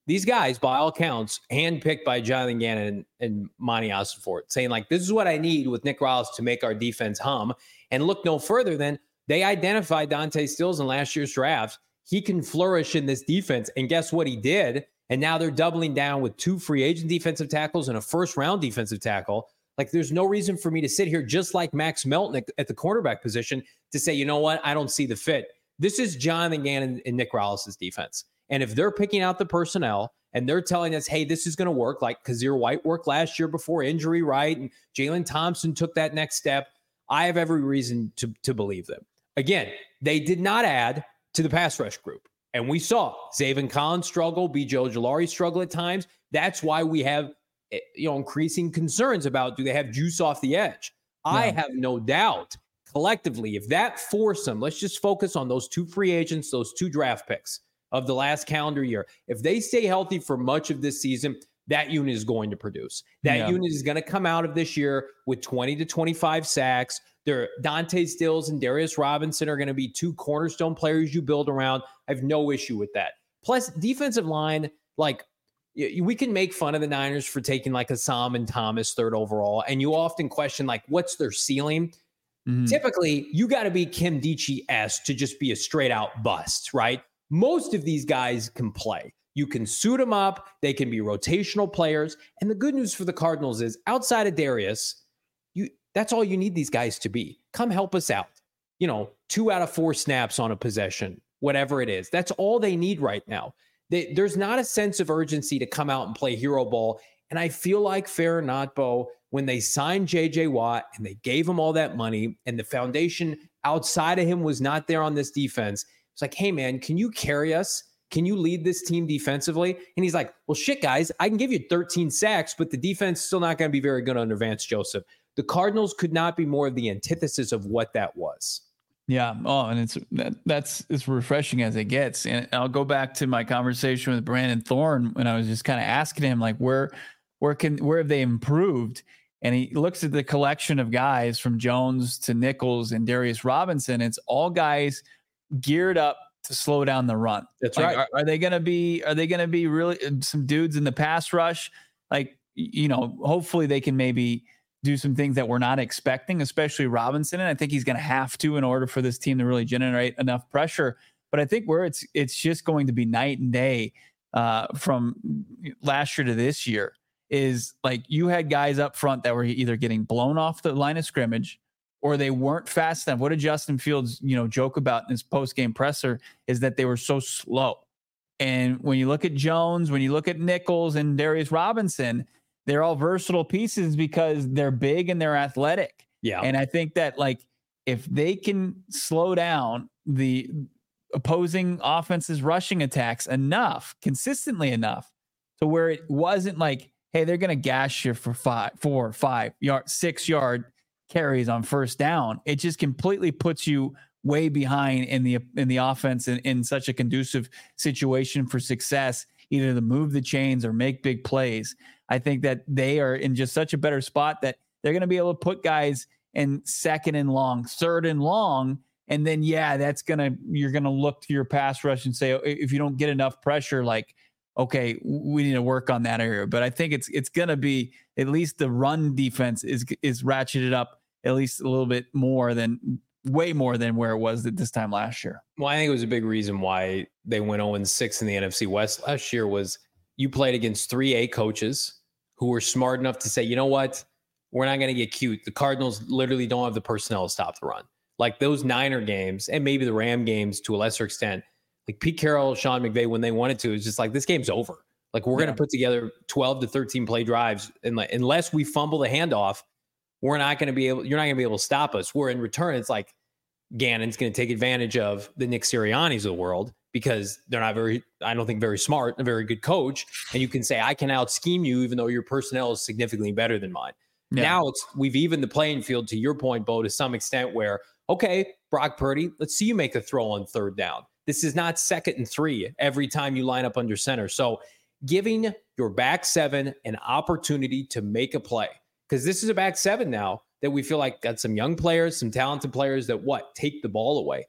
S1: these guys, by all counts, handpicked by Jonathan Gannon and, and Monty Ossenfort, saying like, this is what I need with Nick Rallis to make our defense hum. And look no further than they identified Dante Stills in last year's draft. He can flourish in this defense. And guess what he did? And now they're doubling down with two free agent defensive tackles and a first round defensive tackle. Like, there's no reason for me to sit here just like Max Melton at the cornerback position to say, you know what, I don't see the fit. This is Jonathan Gannon and Nick Rallis' defense. And if they're picking out the personnel and they're telling us, hey, this is going to work, like Kazir White worked last year before injury, right? And Jalen Thompson took that next step. I have every reason to, to believe them. Again, they did not add to the pass rush group. And we saw Zaven Collins struggle, B J Ojulari struggle at times. That's why we have, you know, increasing concerns about, do they have juice off the edge? Yeah. I have no doubt collectively, if that foursome, let's just focus on those two free agents, those two draft picks of the last calendar year. If they stay healthy for much of this season, that unit is going to produce. That yeah. unit is going to come out of this year with twenty to twenty-five sacks. There, Dante Stills and Darius Robinson are going to be two cornerstone players you build around. I have no issue with that. Plus, defensive line, like, we can make fun of the Niners for taking like Assam and Thomas third overall, and you often question, like, what's their ceiling? Mm-hmm. Typically, you got to be Kim Dichie-esque to just be a straight-out bust, right? Most of these guys can play. You can suit them up. They can be rotational players. And the good news for the Cardinals is, outside of Darius, you that's all you need these guys to be. Come help us out. You know, two out of four snaps on a possession, whatever it is. That's all they need right now. They, there's not a sense of urgency to come out and play hero ball. And I feel like, fair or not, Bo, when they signed J J Watt and they gave him all that money and the foundation outside of him was not there on this defense, it's like, hey, man, can you carry us? Can you lead this team defensively? And he's like, well, shit, guys, I can give you thirteen sacks, but the defense is still not going to be very good under Vance Joseph. The Cardinals could not be more of the antithesis of what that was.
S2: Yeah. Oh, and it's that, that's as refreshing as it gets. And I'll go back to my conversation with Brandon Thorne when I was just kind of asking him, like, where, where can, where have they improved? And he looks at the collection of guys from Jones to Nichols and Darius Robinson. It's all guys geared up to slow down the run.
S1: That's
S2: like,
S1: right.
S2: Are, are they going to be, are they going to be really some dudes in the pass rush? Like, you know, hopefully they can maybe do some things that we're not expecting, especially Robinson. And I think he's going to have to, in order for this team to really generate enough pressure. But I think where it's, it's just going to be night and day uh, from last year to this year is, like, you had guys up front that were either getting blown off the line of scrimmage or they weren't fast enough. What did Justin Fields, you know, joke about in his post-game presser is that they were so slow. And when you look at Jones, when you look at Nichols and Darius Robinson, they're all versatile pieces because they're big and they're athletic.
S1: Yeah.
S2: And I think that, like, if they can slow down the opposing offense's rushing attacks enough, consistently enough, to where it wasn't like, hey, they're going to gash you for five, four, five yard, six yard carries on first down. It just completely puts you way behind in the in the offense in, in such a conducive situation for success, either to move the chains or make big plays. I think that they are in just such a better spot that they're going to be able to put guys in second and long, third and long. And then, yeah, that's going to, you're going to look to your pass rush and say, if you don't get enough pressure, like, okay, we need to work on that area. But I think it's, it's going to be, at least the run defense is, is ratcheted up at least a little bit more than, way more than where it was at this time last year.
S1: Well, I think it was a big reason why they went oh and six in the N F C West last year was you played against three A coaches who were smart enough to say, you know what, we're not going to get cute. The Cardinals literally don't have the personnel to stop the run. Like those Niner games and maybe the Ram games to a lesser extent, like Pete Carroll, Sean McVay, when they wanted to, it's just like, this game's over. Like we're yeah. going to put together twelve to thirteen play drives. And like, unless we fumble the handoff, we're not going to be able, you're not going to be able to stop us. Where in return, it's like Gannon's going to take advantage of the Nick Siriannis of the world because they're not very, I don't think very smart, a very good coach. And you can say, I can out scheme you, even though your personnel is significantly better than mine. Yeah. Now it's, we've evened the playing field, to your point, Bo, to some extent where, okay, Brock Purdy, let's see you make a throw on third down. This is not second and three every time you line up under center. So giving your back seven an opportunity to make a play, because this is a back seven now that we feel like got some young players, some talented players that what take the ball away.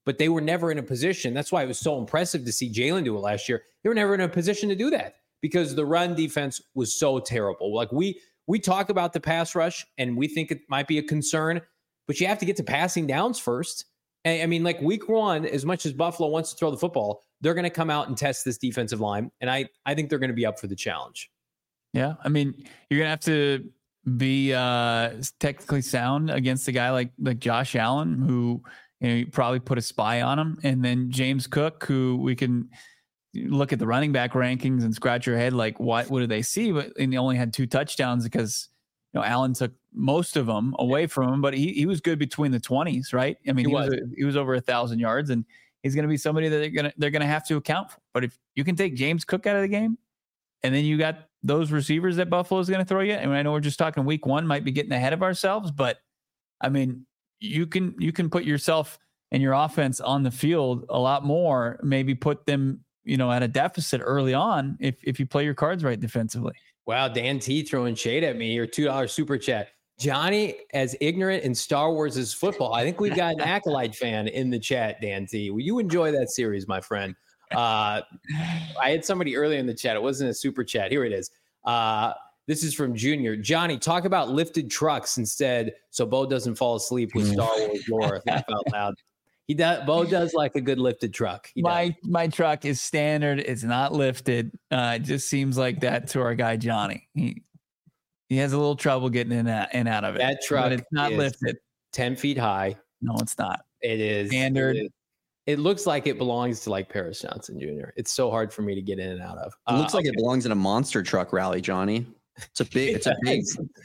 S1: but they were never in a position. That's why it was so impressive to see Jalen do it last year. They were never in a position to do that because the run defense was so terrible. Like we we talk about the pass rush and we think it might be a concern, but you have to get to passing downs first. And I mean, like week one, as much as Buffalo wants to throw the football, they're going to come out and test this defensive line. And I, I think they're going to be up for the challenge.
S2: Yeah. I mean, you're going to have to be uh, technically sound against a guy like, like Josh Allen, who, you know, you probably put a spy on him. And then James Cook, who we can look at the running back rankings and scratch your head like, what, what do they see? But and he only had two touchdowns because, you know, Allen took most of them away from him, but he, he was good between the twenties, right? I mean, he, he was, was a, he was over a thousand yards, and he's going to be somebody that they're going to, they're going to have to account for. But if you can take James Cook out of the game, and then you got those receivers that Buffalo is going to throw you. I mean, I know we're just talking week one, might be getting ahead of ourselves, but I mean, you can, you can put yourself and your offense on the field a lot more, maybe put them, you know, at a deficit early on if if you play your cards right defensively.
S1: Wow, Dan T throwing shade at me, or two dollars super chat. Johnny, as ignorant in Star Wars as football. I think we've got an Acolyte fan in the chat, Dan T. Will you enjoy that series, my friend? Uh, I had somebody earlier in the chat. It wasn't a super chat. Here it is. Uh, this is from Junior. Johnny, talk about lifted trucks instead so Bo doesn't fall asleep with Star Wars lore. Laugh out loud. He does. Bo does like a good lifted truck. He
S2: my
S1: does.
S2: my truck is standard. It's not lifted. Uh, it just seems like that to our guy Johnny. He he has a little trouble getting in and, in out of it.
S1: That truck
S2: but it's not
S1: is
S2: lifted.
S1: ten feet high.
S2: No, it's not.
S1: It is
S2: standard.
S1: It, is, it looks like it belongs to like Paris Johnson Junior It's so hard for me to get in and out of.
S3: It looks
S1: uh,
S3: like
S1: okay.
S3: it belongs in a monster truck rally, Johnny. It's a big, it's a big,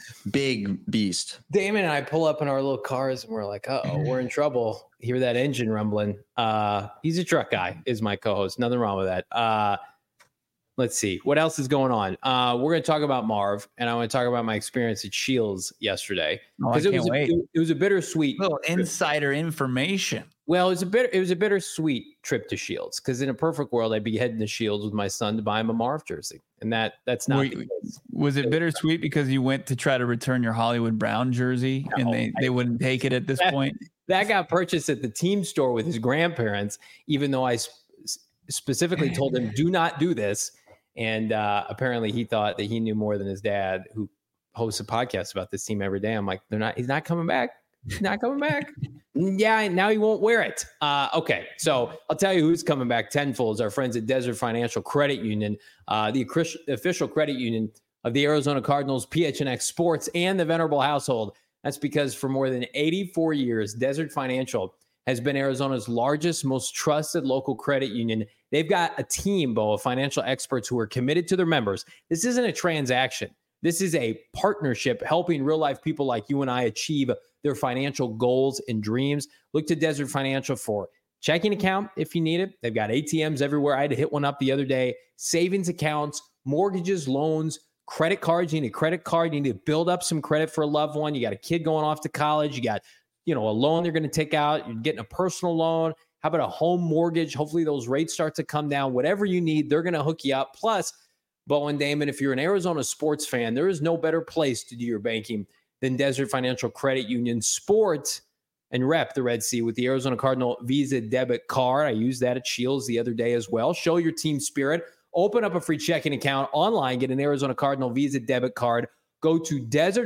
S3: big beast.
S1: Damon and I pull up in our little cars and we're like, uh oh, we're in trouble. Hear that engine rumbling. Uh, he's a truck guy, is my co-host. Nothing wrong with that. Uh, let's see. What else is going on? Uh, we're going to talk about Marv, and I want to talk about my experience at Shields yesterday.
S2: Oh, I
S1: it
S2: can't
S1: was
S2: wait.
S1: A, it was a bittersweet.
S2: Little insider information.
S1: Well, it was a bit. It was a bittersweet trip to Shields because in a perfect world, I'd be heading to Shields with my son to buy him a Marv jersey, and that that's not.
S2: Were, was it bittersweet because you went to try to return your Hollywood Brown jersey
S1: no,
S2: and they,
S1: I,
S2: they wouldn't take it at this
S1: that,
S2: point?
S1: That got purchased at the team store with his grandparents, even though I sp- specifically told him do not do this, and uh, apparently he thought that he knew more than his dad, who hosts a podcast about this team every day. I'm like, they're not. He's not coming back. He's not coming back. Yeah, now he won't wear it. Uh, okay, so I'll tell you who's coming back tenfold is our friends at Desert Financial Credit Union, uh, the official credit union of the Arizona Cardinals, P H N X Sports, and the Venerable household. That's because for more than eighty-four years, Desert Financial has been Arizona's largest, most trusted local credit union. They've got a team, Bo, of financial experts who are committed to their members. This isn't a transaction. This is a partnership helping real-life people like you and I achieve their financial goals and dreams. Look to Desert Financial for checking account if you need it. They've got A T Ms everywhere. I had to hit one up the other day. Savings accounts, mortgages, loans, credit cards. You need a credit card. You need to build up some credit for a loved one. You got a kid going off to college. You got, you know, a loan they're going to take out. You're getting a personal loan. How about a home mortgage? Hopefully those rates start to come down. Whatever you need, they're going to hook you up. Plus, Bo and Damon, if you're an Arizona sports fan, there is no better place to do your banking than Desert Financial Credit Union. Sport and rep the Red Sea with the Arizona Cardinal Visa debit card. I used that at Shields the other day as well. Show your team spirit. Open up a free checking account online. Get an Arizona Cardinal Visa debit card. Go to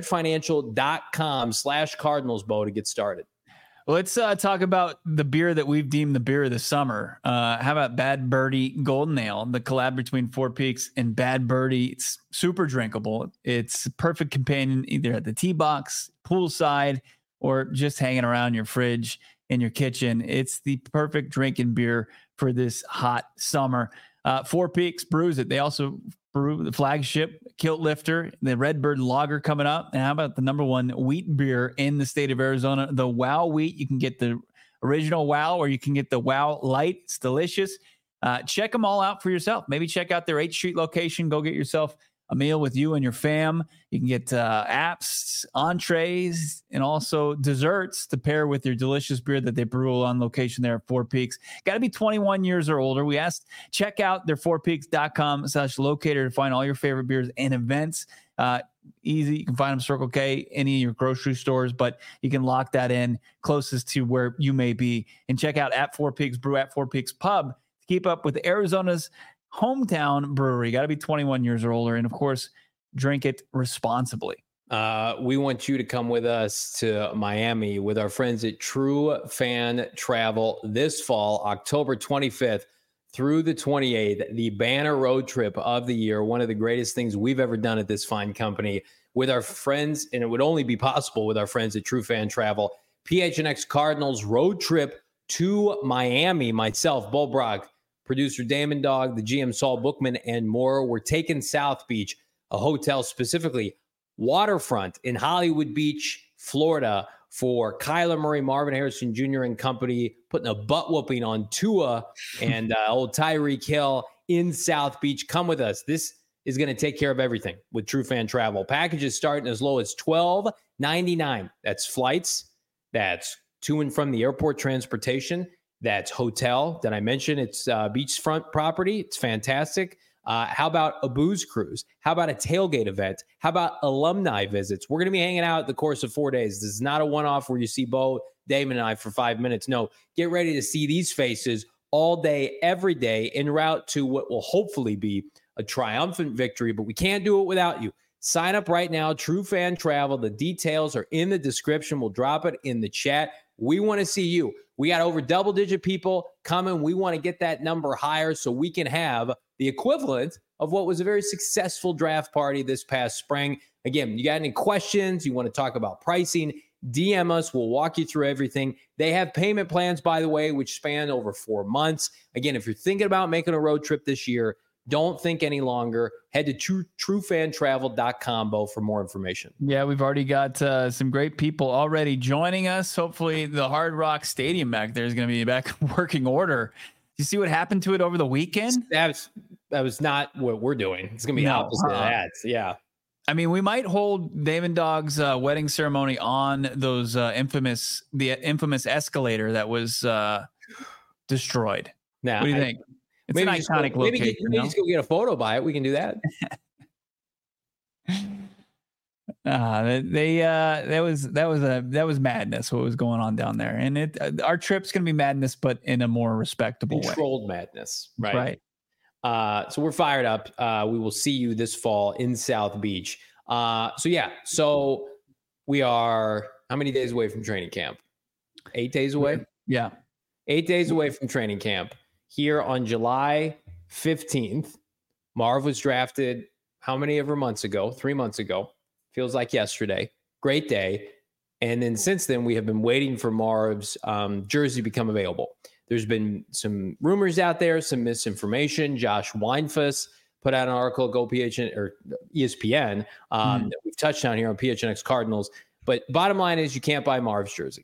S1: desertfinancial.com slash Cardinals, Bo, to get started.
S2: Let's uh, talk about the beer that we've deemed the beer of the summer. Uh, how about Bad Birdie Golden Ale, the collab between Four Peaks and Bad Birdie? It's super drinkable. It's a perfect companion either at the tee box, poolside, or just hanging around your fridge in your kitchen. It's the perfect drinking beer for this hot summer. Uh, Four Peaks brews it. They also brew the flagship Kilt Lifter, the Redbird Lager coming up. And how about the number one wheat beer in the state of Arizona, the Wow Wheat? You can get the original Wow, or you can get the Wow Light. It's delicious. Uh, check them all out for yourself. Maybe check out their eighth Street location. Go get yourself a meal with you and your fam. You can get uh, apps, entrees, and also desserts to pair with your delicious beer that they brew on location there at Four Peaks. Got to be twenty-one years or older. We asked, check out their four peaks dot com slash locator to find all your favorite beers and events. Uh, easy. You can find them Circle K, any of your grocery stores, but you can lock that in closest to where you may be. And check out at Four Pigs Brew, at Four Pigs Pub to keep up with Arizona's hometown brewery. Got to be twenty-one years or older. And of course, drink it responsibly.
S1: Uh, we want you to come with us to Miami with our friends at True Fan Travel this fall, October twenty-fifth through the twenty-eighth, the banner road trip of the year. One of the greatest things we've ever done at this fine company with our friends, and it would only be possible with our friends at True Fan Travel. P H N X Cardinals road trip to Miami. Myself, Bull Brock, producer Damon Dog, the G M Saul Bookman, and more. We're taking South Beach, a hotel specifically waterfront in Hollywood Beach, Florida, for Kyler Murray, Marvin Harrison Junior and company, putting a butt whooping on Tua and uh, old Tyreek Hill in South Beach. Come with us. This is going to take care of everything with True Fan Travel. Packages starting as low as twelve ninety-nine. That's flights. That's to and from the airport transportation. That's hotel that I mentioned. It's uh, beachfront property. It's fantastic. Uh, how about a booze cruise? How about a tailgate event? How about alumni visits? We're going to be hanging out the course of four days. This is not a one-off where you see Bo, Damon, and I for five minutes. No, get ready to see these faces all day, every day, en route to what will hopefully be a triumphant victory, but we can't do it without you. Sign up right now, True Fan Travel. The details are in the description. We'll drop it in the chat. We want to see you. We got over double-digit people coming. We want to get that number higher so we can have the equivalent of what was a very successful draft party this past spring. Again, you got any questions, you want to talk about pricing, D M us. We'll walk you through everything. They have payment plans, by the way, which span over four months. Again, if you're thinking about making a road trip this year, don't think any longer. Head to true, true fan travel dot com, Bo, for more information.
S2: Yeah, we've already got uh, some great people already joining us. Hopefully the Hard Rock Stadium back there is going to be back in working order. You see what happened to it over the weekend?
S1: That was, that was not what we're doing. It's going to be no, opposite uh, of that. Yeah.
S2: I mean, we might hold Damon Dog's uh, wedding ceremony on those uh, infamous, the infamous escalator that was uh, destroyed.
S1: Now,
S2: what do you
S1: I,
S2: think? It's
S1: maybe
S2: an iconic
S1: go,
S2: location.
S1: Maybe, get, maybe just go get a photo by it. We can do that.
S2: uh, they uh, that was that was a that was madness. What was going on down there, and it uh, our trip's gonna be madness, but in a more respectable
S1: controlled
S2: way.
S1: madness, right?
S2: Right.
S1: Uh, so we're fired up. Uh, we will see you this fall in South Beach. Uh, so yeah, so we are how many days away from training camp? Eight days away.
S2: Yeah,
S1: eight days away from training camp. Here on July fifteenth, Marv was drafted how many ever months ago? Three months ago. Feels like yesterday. Great day. And then since then, we have been waiting for Marv's um, jersey to become available. There's been some rumors out there, some misinformation. Josh Weinfuss put out an article, Go P H N or E S P N, um, mm. that we've touched on here on P H N X Cardinals. But bottom line is you can't buy Marv's jersey.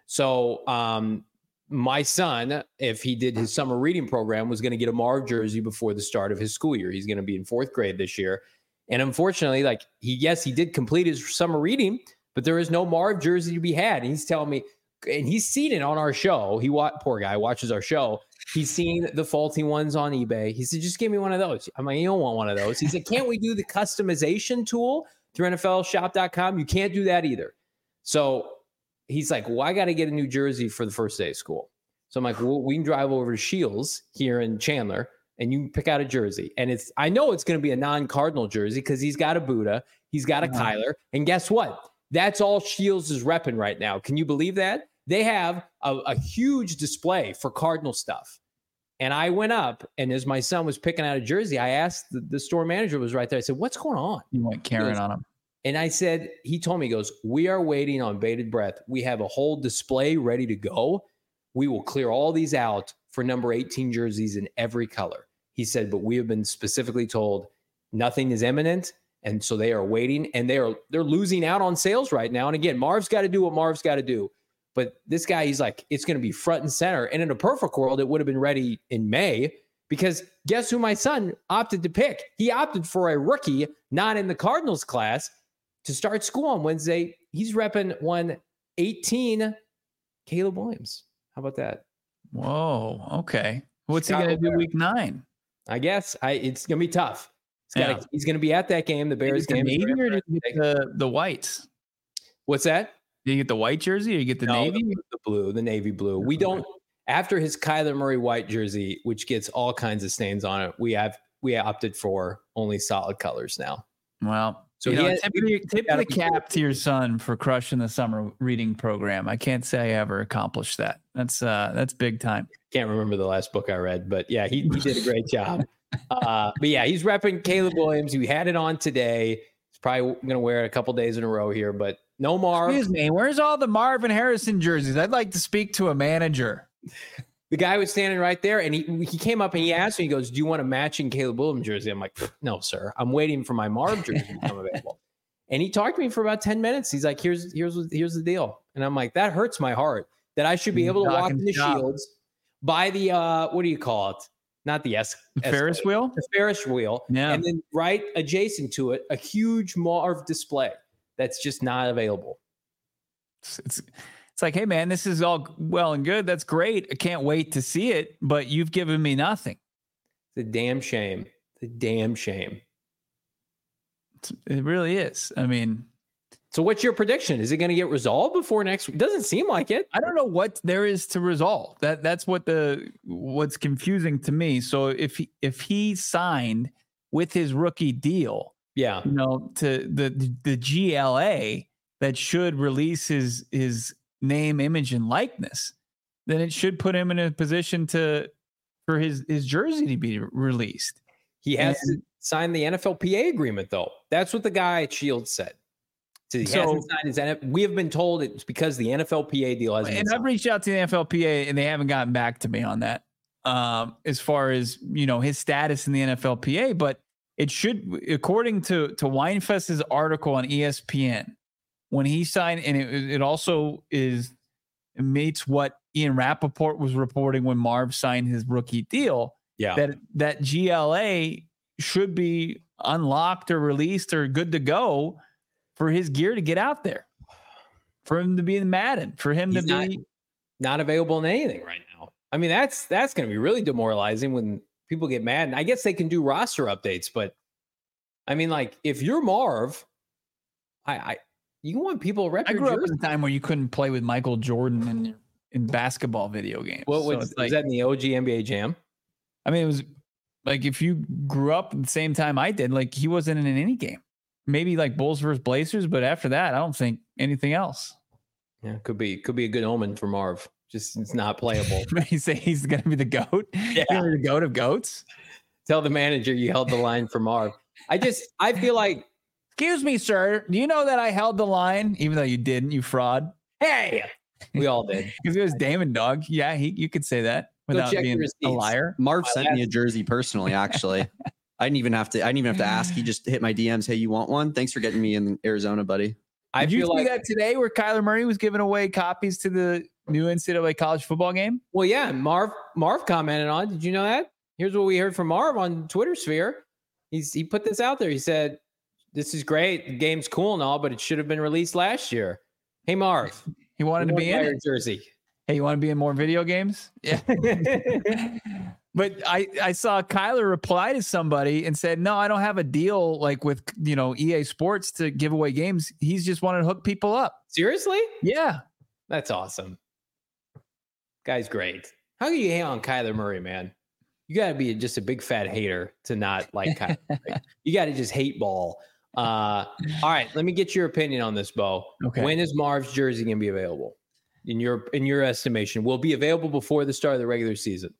S1: So um, my son, if he did his summer reading program, was going to get a Marv jersey before the start of his school year. He's going to be in fourth grade this year. And unfortunately, like he, yes, he did complete his summer reading, but there is no Marv jersey to be had. And he's telling me, and he's seen it on our show. He wa- poor guy watches our show. He's seen the faulty ones on eBay. He said, just give me one of those. I'm like, you don't want one of those. He said, can't we do the customization tool through N F L shop dot com? You can't do that either. So he's like, well, I got to get a new jersey for the first day of school. So I'm like, well, we can drive over to Shields here in Chandler and you can pick out a jersey. And it's, I know it's going to be a non-Cardinal jersey because he's got a Buddha, he's got a uh-huh. Kyler. And guess what? That's all Shields is repping right now. Can you believe that? They have a, a huge display for Cardinal stuff. And I went up, and as my son was picking out a jersey, I asked the, the store manager was right there. I said, what's going on?
S2: You went Karen on him.
S1: And I said, he told me, he goes, we are waiting on bated breath. We have a whole display ready to go. We will clear all these out for number eighteen jerseys in every color. He said, but we have been specifically told nothing is imminent. And so they are waiting, and they are, they're losing out on sales right now. And again, Marv's got to do what Marv's got to do. But this guy, he's like, it's going to be front and center. And in a perfect world, it would have been ready in May because guess who my son opted to pick? He opted for a rookie, not in the Cardinals class, to start school on Wednesday. He's repping one eighteen, Caleb Williams. How about that?
S2: Whoa. Okay. What's Chicago he going to do week nine?
S1: I guess I, it's going to be tough. He's got. Yeah. He's going to be at that game. The Bears game.
S2: The Navy, or did you get the the whites?
S1: What's that?
S2: Do you get the white jersey, or you get the
S1: no,
S2: navy?
S1: The, the blue, the navy blue. We don't. After his Kyler Murray white jersey, which gets all kinds of stains on it, we have we opted for only solid colors now.
S2: Well, so you know, has, tip, of the, tip of the cap to your son for crushing the summer reading program. I can't say I ever accomplished that. That's uh, that's big time.
S1: Can't remember the last book I read, but yeah, he, he did a great job. Uh, but yeah, he's repping Caleb Williams. We had it on today. He's probably going to wear it a couple days in a row here, but no Marv.
S2: Excuse me, where's all the Marvin Harrison jerseys? I'd like to speak to a manager.
S1: The guy was standing right there, and he he came up and he asked me, he goes, do you want a matching Caleb Williams jersey? I'm like, no, sir. I'm waiting for my Marv jersey to become available. And he talked to me for about ten minutes. He's like, here's here's here's the deal. And I'm like, that hurts my heart that I should be able to walk in the stop. Shields, buy the, uh, what do you call it? Not the S.
S2: The Ferris wheel?
S1: The Ferris wheel.
S2: Yeah.
S1: And then right adjacent to it, a huge Marv display that's just not available.
S2: It's, it's It's like, hey, man, this is all well and good. That's great. I can't wait to see it, but you've given me nothing.
S1: It's a damn shame. It's a damn shame.
S2: It's, it really is. I mean,
S1: so what's your prediction? Is it going to get resolved before next week? Doesn't seem like it.
S2: I don't know what there is to resolve. That that's what the what's confusing to me. So if he, if he signed with his rookie deal,
S1: yeah,
S2: you know, to the the G L A that should release his his name, image, and likeness, then it should put him in a position to for his his jersey to be released.
S1: He has and, to sign the N F L P A agreement, though. That's what the guy at Shields said. So he so, hasn't signed his N F L. We have been told it's because the N F L P A deal hasn't.
S2: And
S1: been
S2: I've reached out to the N F L P A and they haven't gotten back to me on that. Um, as far as you know, his status in the N F L P A, but it should, according to to Weinfest's article on E S P N, when he signed, and it, it also is it meets what Ian Rappaport was reporting when Marv signed his rookie deal.
S1: Yeah,
S2: that that G L A should be unlocked or released or good to go for his gear to get out there, for him to be in Madden, for him He's to
S1: not,
S2: be
S1: not available in anything right now. I mean, that's that's going to be really demoralizing when people get mad. And I guess they can do roster updates, but I mean, like if you're Marv, I, I you want people to rep
S2: I
S1: your
S2: grew
S1: jersey.
S2: up in a time where you couldn't play with Michael Jordan in in basketball video games.
S1: What was, so like, was that in the O G N B A Jam?
S2: I mean, it was like if you grew up at the same time I did, like he wasn't in any game. Maybe like Bulls versus Blazers, but after that, I don't think anything else.
S1: Yeah, could be could be a good omen for Marv. Just it's not playable.
S2: You say he's going to be the GOAT?
S1: Yeah,
S2: the GOAT of goats.
S1: Tell the manager you held the line for Marv. I just I feel like,
S2: excuse me, sir. Do you know that I held the line, even though you didn't? You fraud.
S1: Hey, we all did
S2: because it was Damon Dog. Yeah, he you could say that without being a liar.
S3: Marv sent me a jersey personally, actually. I didn't even have to. I didn't even have to ask. He just hit my D Ms. Hey, you want one? Thanks for getting me in Arizona, buddy.
S2: I Did you see like, that today, where Kyler Murray was giving away copies to the new N C double A college football game?
S1: Well, yeah, Marv Marv commented on. Did you know that? Here's what we heard from Marv on Twitter sphere. He's he put this out there. He said, "This is great. The game's cool and all, but it should have been released last year." Hey, Marv,
S2: he wanted to be in
S1: your jersey.
S2: Hey, you want to be in more video games? Yeah. But I, I saw Kyler reply to somebody and said, no, I don't have a deal like with, you know, E A Sports to give away games. He's just wanting to hook people up.
S1: Seriously?
S2: Yeah.
S1: That's awesome. Guy's great. How can you hate on Kyler Murray, man? You got to be just a big fat hater to not like Kyler Murray. You got to just hate ball. Uh, all right, let me get your opinion on this, Bo.
S2: Okay.
S1: When is Marv's jersey going to be available? In your in your estimation, will it be available before the start of the regular season?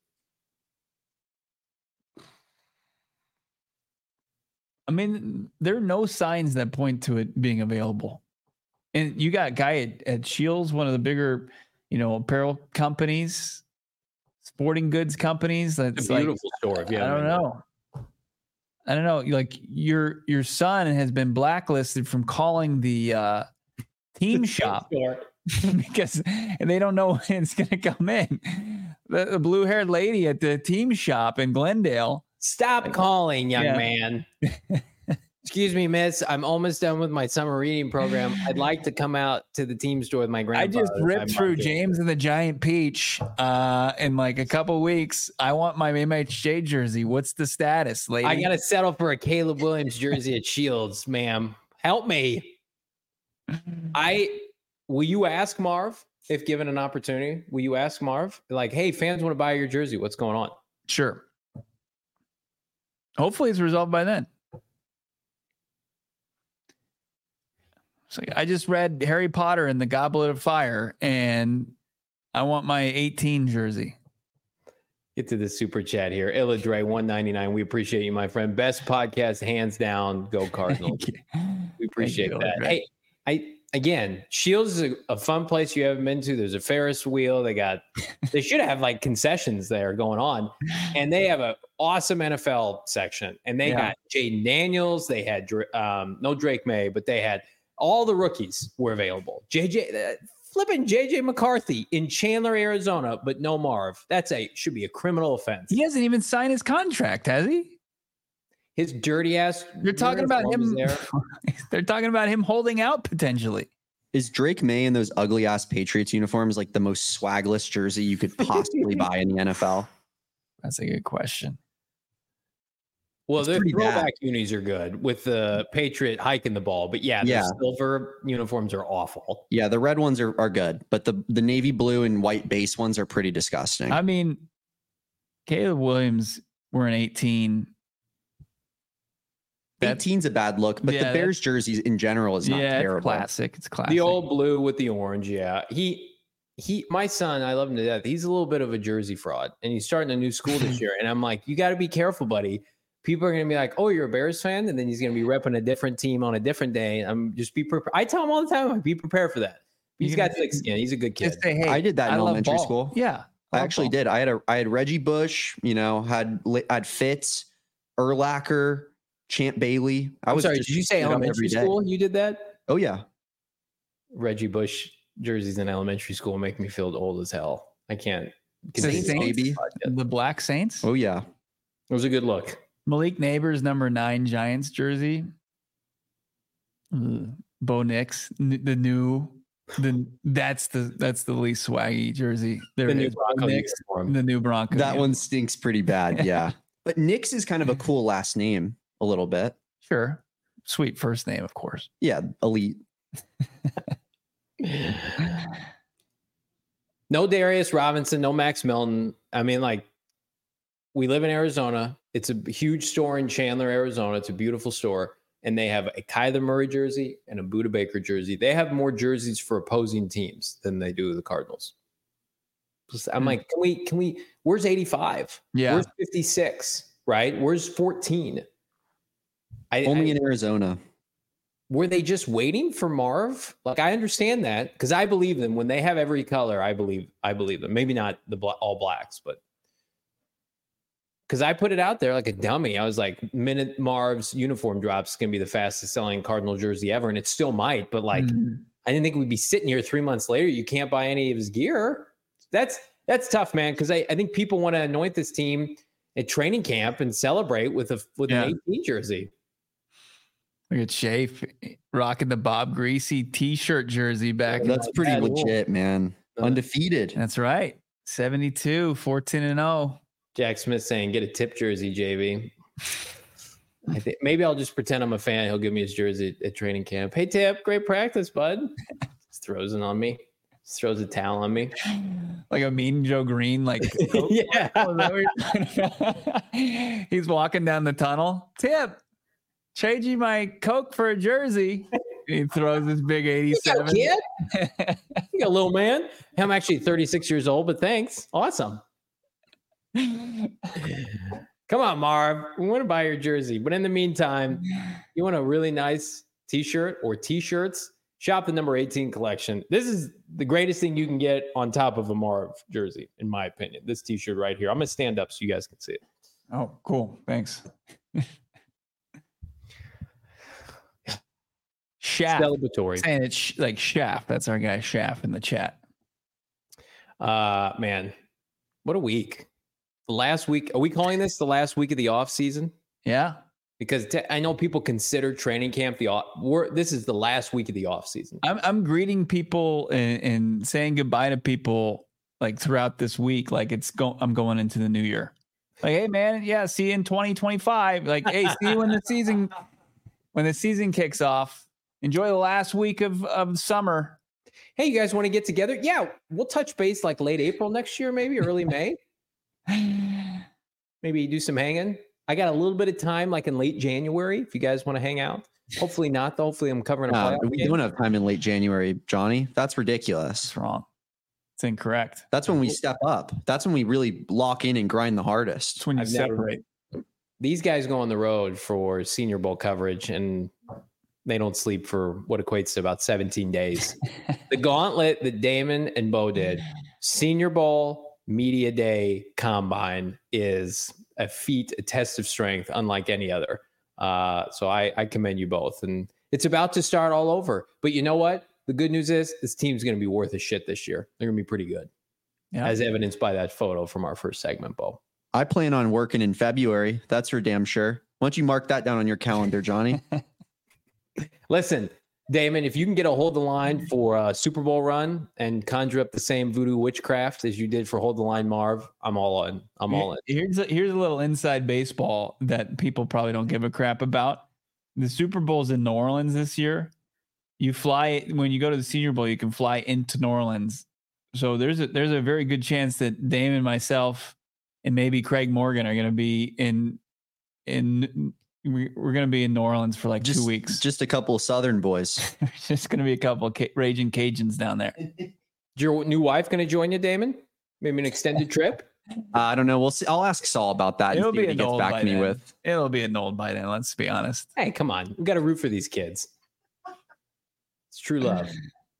S2: I mean, there are no signs that point to it being available. And you got a guy at, at Shields, one of the bigger, you know, apparel companies, sporting goods companies. That's
S1: a beautiful
S2: like,
S1: store. Yeah,
S2: I don't know. I don't know. Like your your son has been blacklisted from calling the uh, team shop because they don't know when it's going to come in. The, the blue haired lady at the team shop in Glendale.
S1: Stop calling, young yeah. man. Excuse me, miss. I'm almost done with my summer reading program. I'd like to come out to the team store with my grandpa.
S2: I just ripped through James and the Giant Peach uh, in like a couple weeks. I want my M H J jersey. What's the status, lady?
S1: I got to settle for a Caleb Williams jersey at Shields, ma'am. Help me. I will you ask Marv if given an opportunity? Will you ask Marv like, hey, fans want to buy your jersey? What's going on?
S2: Sure. Hopefully, it's resolved by then. So I just read Harry Potter and the Goblet of Fire, and I want my eighteen jersey.
S1: Get to the super chat here. Illa Dre one ninety-nine. We appreciate you, my friend. Best podcast, hands down. Go Cardinals. We appreciate you, that. Dre. Hey, I again, Shields is a, a fun place you haven't been to. There's a Ferris wheel. They got. They should have like concessions there going on, and they have an awesome N F L section. And they yeah. got Jaden Daniels. They had um, no Drake May, but they had. All the rookies were available. J J, uh, flipping J J McCarthy in Chandler, Arizona, but no Marv. That's a should be a criminal offense.
S2: He hasn't even signed his contract, has he?
S1: His dirty ass.
S2: You're talking about him. There. They're talking about him holding out potentially.
S3: Is Drake May in those ugly ass Patriots uniforms like the most swagless jersey you could possibly buy in the N F L?
S2: That's a good question.
S1: Well, the throwback unis are good with the Patriot hiking the ball, but yeah, the yeah. silver uniforms are awful.
S3: Yeah, the red ones are, are good, but the, the navy blue and white base ones are pretty disgusting.
S2: I mean, Caleb Williams were an eighteen.
S3: eighteen's a bad look, but yeah, the Bears jerseys in general is not
S2: yeah,
S3: terrible.
S2: It's classic. It's classic.
S1: The old blue with the orange, yeah. He he my son, I love him to death. He's a little bit of a jersey fraud, and he's starting a new school this year. And I'm like, you got to be careful, buddy. People are going to be like, oh, you're a Bears fan? And then he's going to be repping a different team on a different day. I'm just be prepared. I tell him all the time, like, be prepared for that. He's got thick skin. He's a good kid.
S2: Say, hey,
S3: I did that in
S2: I
S3: elementary school.
S2: Yeah.
S3: I actually ball. did. I had a, I had Reggie Bush, you know, had, had Fitz, Urlacher, Champ Bailey. I
S1: I'm
S3: was
S1: sorry. Did you say elementary school? You did that?
S3: Oh, yeah.
S1: Reggie Bush jerseys in elementary school make me feel old as hell. I can't.
S2: Saints, maybe. The Black Saints?
S3: Oh, yeah.
S1: It was a good look.
S2: Malik Neighbors number nine Giants jersey. Mm. Bo Nix, n- the new, the that's the that's the least swaggy jersey. There
S1: the
S2: it
S1: new
S2: is.
S1: Bronco
S2: Nix, the new Bronco.
S3: That one stinks pretty bad. Yeah, but Nix is kind of a cool last name, a little bit.
S2: Sure, sweet first name, of course.
S3: Yeah, elite.
S1: No Darius Robinson, no Max Milton. I mean, like, we live in Arizona. It's a huge store in Chandler, Arizona. It's a beautiful store. And they have a Kyler Murray jersey and a Budda Baker jersey. They have more jerseys for opposing teams than they do the Cardinals. I'm like, can we, can we, where's eighty-five?
S2: Yeah.
S1: Where's fifty-six? Right? Where's fourteen? I,
S3: Only
S1: I,
S3: in Arizona.
S1: Were they just waiting for Marv? Like, I understand that because I believe them. When they have every color, I believe, I believe them. Maybe not the all blacks, but because I put it out there like a dummy. I was like, minute Marv's uniform drops going to be the fastest selling Cardinal jersey ever. And it still might, but like, mm-hmm. I didn't think we'd be sitting here three months later. You can't buy any of his gear. That's, that's tough, man. Cause I, I think people want to anoint this team at training camp and celebrate with a, with yeah. an eighteen jersey.
S2: Look at Shay rocking the Bob Greasy t-shirt jersey back.
S3: Yeah, that's pretty bad. legit, man. Undefeated.
S2: That's right. seventy-two, fourteen and oh.
S1: Jack Smith saying, get a tip jersey, J B. I think maybe I'll just pretend I'm a fan. He'll give me his jersey at training camp. Hey, Tip, great practice, bud. Just throws it on me. Just throws a towel on me.
S2: Like a mean Joe Green, like,
S1: yeah.
S2: He's walking down the tunnel. Tip, trade you my Coke for a jersey. He throws this big eighty-seven.
S1: You got a kid? You got a little man. I'm actually thirty-six years old, but thanks. Awesome. Come on, Marv. We want to buy your jersey. But in the meantime, you want a really nice t-shirt or t-shirts, shop the number eighteen collection. This is the greatest thing you can get on top of a Marv jersey, in my opinion. This t-shirt right here. I'm going to stand up so you guys can see it.
S2: Oh, cool. Thanks. Shaft.
S1: Celebratory.
S2: Saying it's sh- like Shaft. That's our guy Shaft in the chat.
S1: Uh, man, what a week. The last week. Are we calling this the last week of the off season?
S2: Yeah.
S1: Because t- I know people consider training camp the off. We're, this is the last week of the off season.
S2: I'm I'm greeting people and, and saying goodbye to people like throughout this week. Like it's go. I'm going into the new year. Like, hey man, yeah, see you in twenty twenty-five. Like, hey, see you when the season when the season kicks off. Enjoy the last week of of summer.
S1: Hey, you guys want to get together? Yeah, we'll touch base like late April next year, maybe early May. Maybe do some hanging. I got a little bit of time, like in late January, if you guys want to hang out. Hopefully not, though. Hopefully I'm covering a
S3: Uh,
S1: playoff
S3: we
S1: game.
S3: don't have time in late January, Johnny. That's ridiculous.
S2: That's wrong. It's incorrect.
S3: That's when we step up. That's when we really lock in and grind the hardest.
S2: It's when you
S1: I've never-
S2: separate.
S1: These guys go on the road for Senior Bowl coverage, and they don't sleep for what equates to about seventeen days. The gauntlet that Damon and Bo did, Senior Bowl, Media Day, Combine, is a feat, a test of strength, unlike any other. Uh, so I, I commend you both. And it's about to start all over. But you know what? The good news is this team's going to be worth a shit this year. They're going to be pretty good,
S2: Yeah.
S1: as evidenced by that photo from our first segment, Bo.
S3: I plan on working in February. That's for damn sure. Why don't you mark that down on your calendar, Johnny?
S1: Listen, Damon, if you can get a hold the line for a Super Bowl run and conjure up the same voodoo witchcraft as you did for Hold the Line Marv, I'm all in. I'm all in.
S2: Here's a, here's a little inside baseball that people probably don't give a crap about. The Super Bowl's in New Orleans this year. You fly when you go to the Senior Bowl, you can fly into New Orleans. So there's a there's a very good chance that Damon, myself, and maybe Craig Morgan are going to be in in we- we're going to be in New Orleans for like
S3: just,
S2: two weeks.
S3: Just a couple of Southern boys.
S2: There's just going to be a couple of ca- raging Cajuns down there.
S1: Is your new wife going to join you, Damon? Maybe an extended trip?
S3: Uh, I don't know. We'll see. I'll ask Saul about that.
S2: It'll
S3: and see
S2: be
S3: what he gets
S2: annulled
S3: back
S2: by
S3: to me
S2: then.
S3: with.
S2: It'll be annulled by then. Let's be honest.
S1: Hey, come on. We got to root for these kids. It's true love.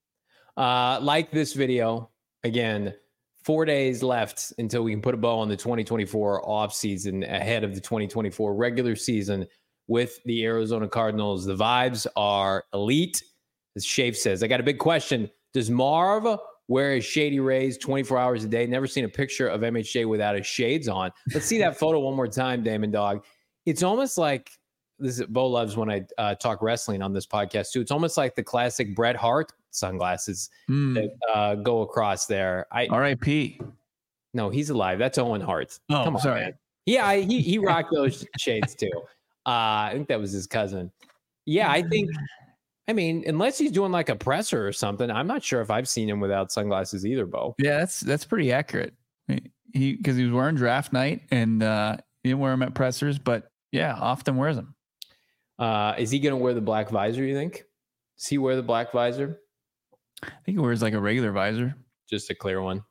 S1: Uh, like this video. Again, four days left until we can put a bow on the twenty twenty-four offseason ahead of the twenty twenty-four regular season with the Arizona Cardinals. The vibes are elite. As Shafe says, I got a big question. Does Marv wear his shady rays twenty-four hours a day? Never seen a picture of M H J without his shades on. Let's see that photo one more time, Damon Dog. It's almost like this is Bo loves when I uh, talk wrestling on this podcast too. It's almost like the classic Bret Hart sunglasses
S2: Mm.
S1: that uh, go across there. I
S2: R I P
S1: no, he's alive. That's Owen Hart.
S2: Oh,
S1: Come on,
S2: sorry.
S1: man. Yeah, I, he he rocked those shades too. Uh, I think that was his cousin. Yeah, I think. I mean, unless he's doing like a presser or something, I'm not sure if I've seen him without sunglasses either, Bo.
S2: Yeah, that's that's pretty accurate. He because he was wearing draft night and uh, he didn't wear them at pressers, but yeah, often wears them.
S1: Uh, is he going to wear the black visor? You think? Does he wear the black visor?
S2: I think he wears like a regular visor.
S1: Just a clear one.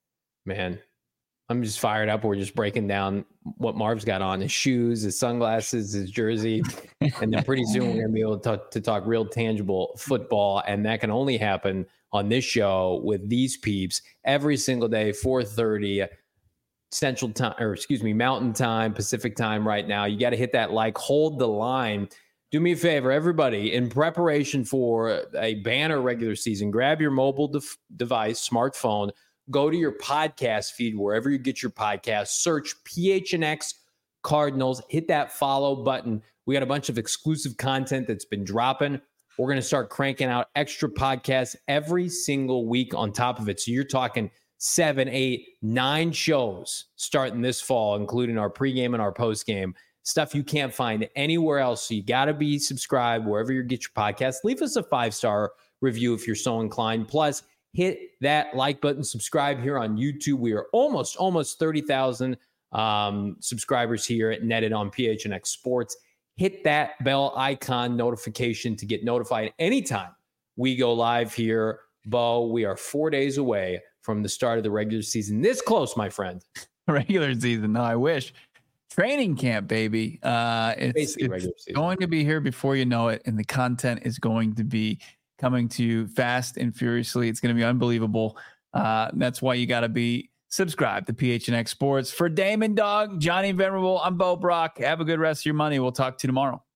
S1: Man, I'm just fired up. We're just breaking down what Marv's got on: his shoes, his sunglasses, his jersey, and then pretty soon we're going to be able to talk, to talk real tangible football, and that can only happen on this show with these peeps every single day, four thirty Central Time, or excuse me, Mountain Time, Pacific Time. Right now, you got to hit that like, hold the line. Do me a favor, everybody, in preparation for a banner regular season, grab your mobile de- device, smartphone, go to your podcast feed, wherever you get your podcast, search P H N X Cardinals, hit that follow button. We got a bunch of exclusive content that's been dropping. We're going to start cranking out extra podcasts every single week on top of it. So you're talking seven, eight, nine shows starting this fall, including our pregame and our postgame. Stuff you can't find anywhere else. So you got to be subscribed wherever you get your podcast. Leave us a five-star review if you're so inclined. Plus, hit that like button, subscribe here on YouTube. We are almost, almost thirty thousand um, subscribers here at Netted on P H N X Sports. Hit that bell icon notification to get notified anytime we go live here. Bo, we are four days away from the start of the regular season. This close, my friend.
S2: Regular season. No, I wish. Training camp, baby. Uh, it's
S1: Basically regular
S2: it's
S1: season.
S2: going to be here before you know it, and the content is going to be coming to you fast and furiously. It's going to be unbelievable. Uh, that's why you got to be subscribed to P H N X Sports. For Damon Dog, Johnny Venerable, I'm Bo Brock. Have a good rest of your money. We'll talk to you tomorrow.